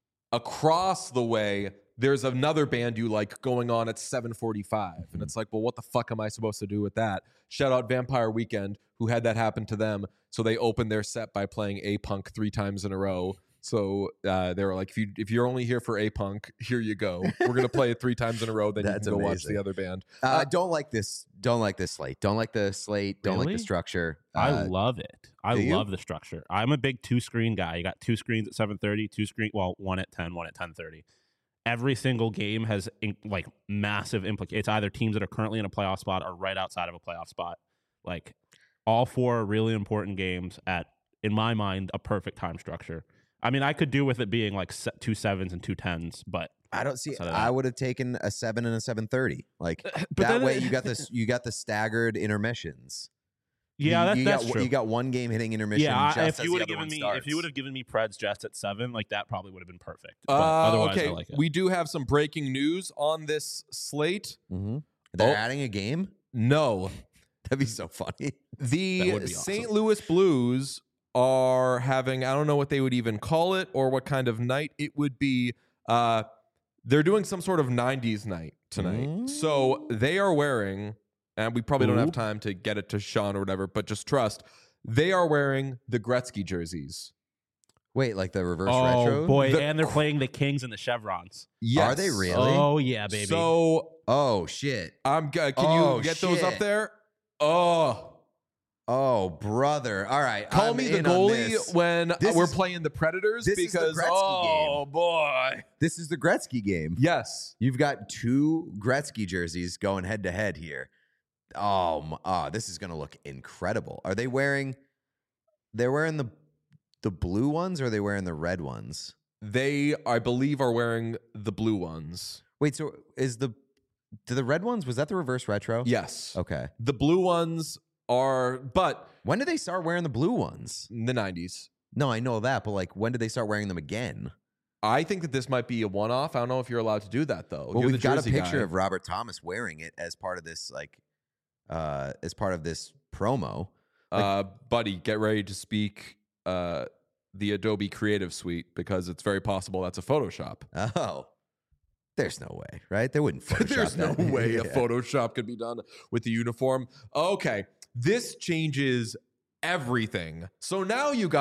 Across the way, there's another band you like going on at 7:45. And it's like, well, what the fuck am I supposed to do with that? Shout out Vampire Weekend, who had that happen to them. So they opened their set by playing A-Punk 3 times in a row. So they were like, if you're only here for A-Punk, here you go. We're going to play it 3 times in a row. Then you can go watch the other band. Don't like this. Don't like this slate. Don't like the slate. Don't like the structure. I love it. I love the structure. I'm a big 2-screen guy. You got 2 screens at 7:30, one at 10, one at 10:30. Every single game has like massive implications. It's either teams that are currently in a playoff spot or right outside of a playoff spot. Like all 4 really important games at, in my mind, a perfect time structure. I mean, I could do with it being like 2 7s and 2 10s, but I don't see. I would have taken a 7 and a 7:30. Like that way, you got this. You got the staggered intermissions. Yeah, that's true. You got one game hitting intermission. Yeah, just if you would have given me Preds Jets at 7, like that probably would have been perfect. But otherwise, okay, I like it. We do have some breaking news on this slate. Mm-hmm. They're adding a game. No, that'd be so funny. The St. Louis Blues are having, I don't know what they would even call it or what kind of night it would be. They're doing some sort of 90s night tonight. So they are wearing, and we probably don't have time to get it to Sean or whatever, but just trust, they are wearing the Gretzky jerseys. Wait, like the reverse retro? Oh, boy. And they're playing the Kings and the Chevrons. Yes. Are they really? Oh, yeah, baby. So, oh, shit. Can you get those up there? Oh, brother. All right. Call me the goalie when we're playing the Predators because, game. Boy. This is the Gretzky game. Yes. You've got 2 Gretzky jerseys going head to head here. This is going to look incredible. Are they wearing? They're wearing the blue ones, or are they wearing the red ones? They, I believe, are wearing the blue ones. Wait, so do the red ones? Was that the reverse retro? Yes. Okay. The blue ones are, but When did they start wearing the blue ones? in the 90s. No, I know that, but like, when did they start wearing them again? I think that this might be a one-off. I don't know if you're allowed to do that though. Well, You're we've the got a Jersey picture guy. of Robert Thomas wearing it as part of this, as part of this promo. Buddy, get ready to speak the Adobe Creative Suite because it's very possible that's a Photoshop. Oh, there's no way, right? They wouldn't Photoshop There's no that. way a Yeah. Photoshop could be done with the uniform. Okay, this changes everything. So now you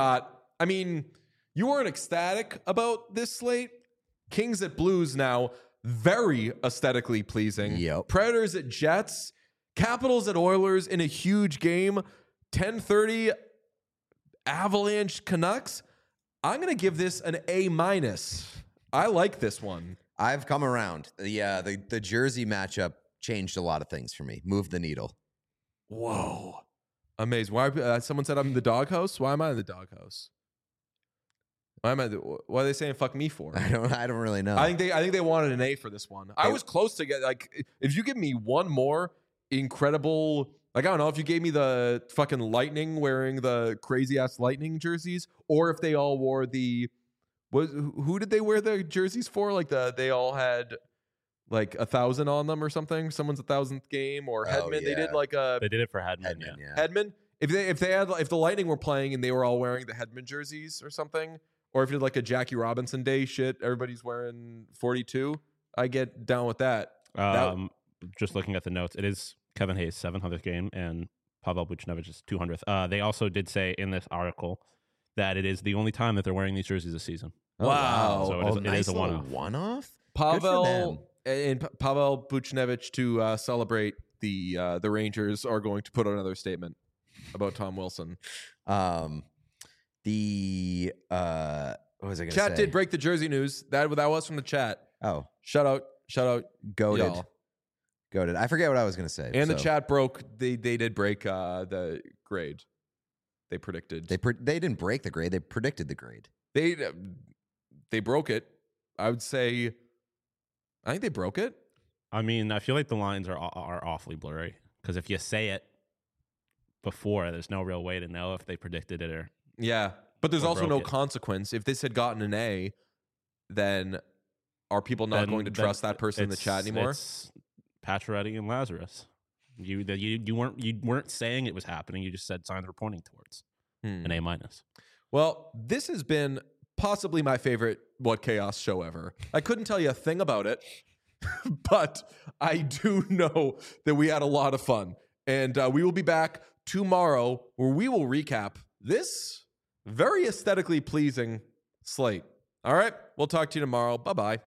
weren't ecstatic about this slate. Kings at Blues now, very aesthetically pleasing. Yep. Predators at Jets, Capitals at Oilers in a huge game, 10:30 Avalanche Canucks. I'm going to give this an A-. I like this one. I've come around. The jersey matchup changed a lot of things for me. Moved the needle. Whoa. Amazing. Why someone said I'm in the doghouse? Why am I in the doghouse? Why are they saying fuck me for? I don't really know. I think they wanted an A for this one. I was close to get, like, if you give me one more incredible, like, I don't know, if you gave me the fucking Lightning wearing the crazy ass Lightning jerseys, or if they all wore who did they wear the jerseys for? Like they all had like 1,000 on them or something. Someone's 1,000th game, or Hedman. They did like a They did it for Hedman. Hedman, Yeah. yeah. Hedman. If the Lightning were playing and they were all wearing the Hedman jerseys or something, or if you did like a Jackie Robinson Day shit, everybody's wearing 42. I get down with that. Just looking at the notes, it is Kevin Hayes' 700th game and Pavel Buchnevich's 200th. They also did say in this article that it is the only time that they're wearing these jerseys this season. Oh, Wow. So it is a one-off. One-off? Pavel Buchnevich to celebrate the Rangers are going to put out another statement about Tom Wilson. What was I going to say? Chat did break the jersey news. That was from the chat. Oh, Shout out, goated. y'all. Goated. I forget what I was going to say. And the so. chat broke. They did break the grade. They predicted. They didn't break the grade. They predicted the grade. They broke it. I would say. I think they broke it. I mean, I feel like the lines are awfully blurry because if you say it before, there's no real way to know if they predicted it or. Yeah, but there's Or also broke no it. consequence. If this had gotten an A, then are people not going to trust that person in the chat anymore? It's Pacioretty and Lazarus. You weren't saying it was happening. You just said signs were pointing towards an A-. Well, this has been possibly my favorite What Chaos show ever. I couldn't tell you a thing about it, but I do know that we had a lot of fun. And we will be back tomorrow where we will recap this very aesthetically pleasing slate. All right, we'll talk to you tomorrow. Bye-bye.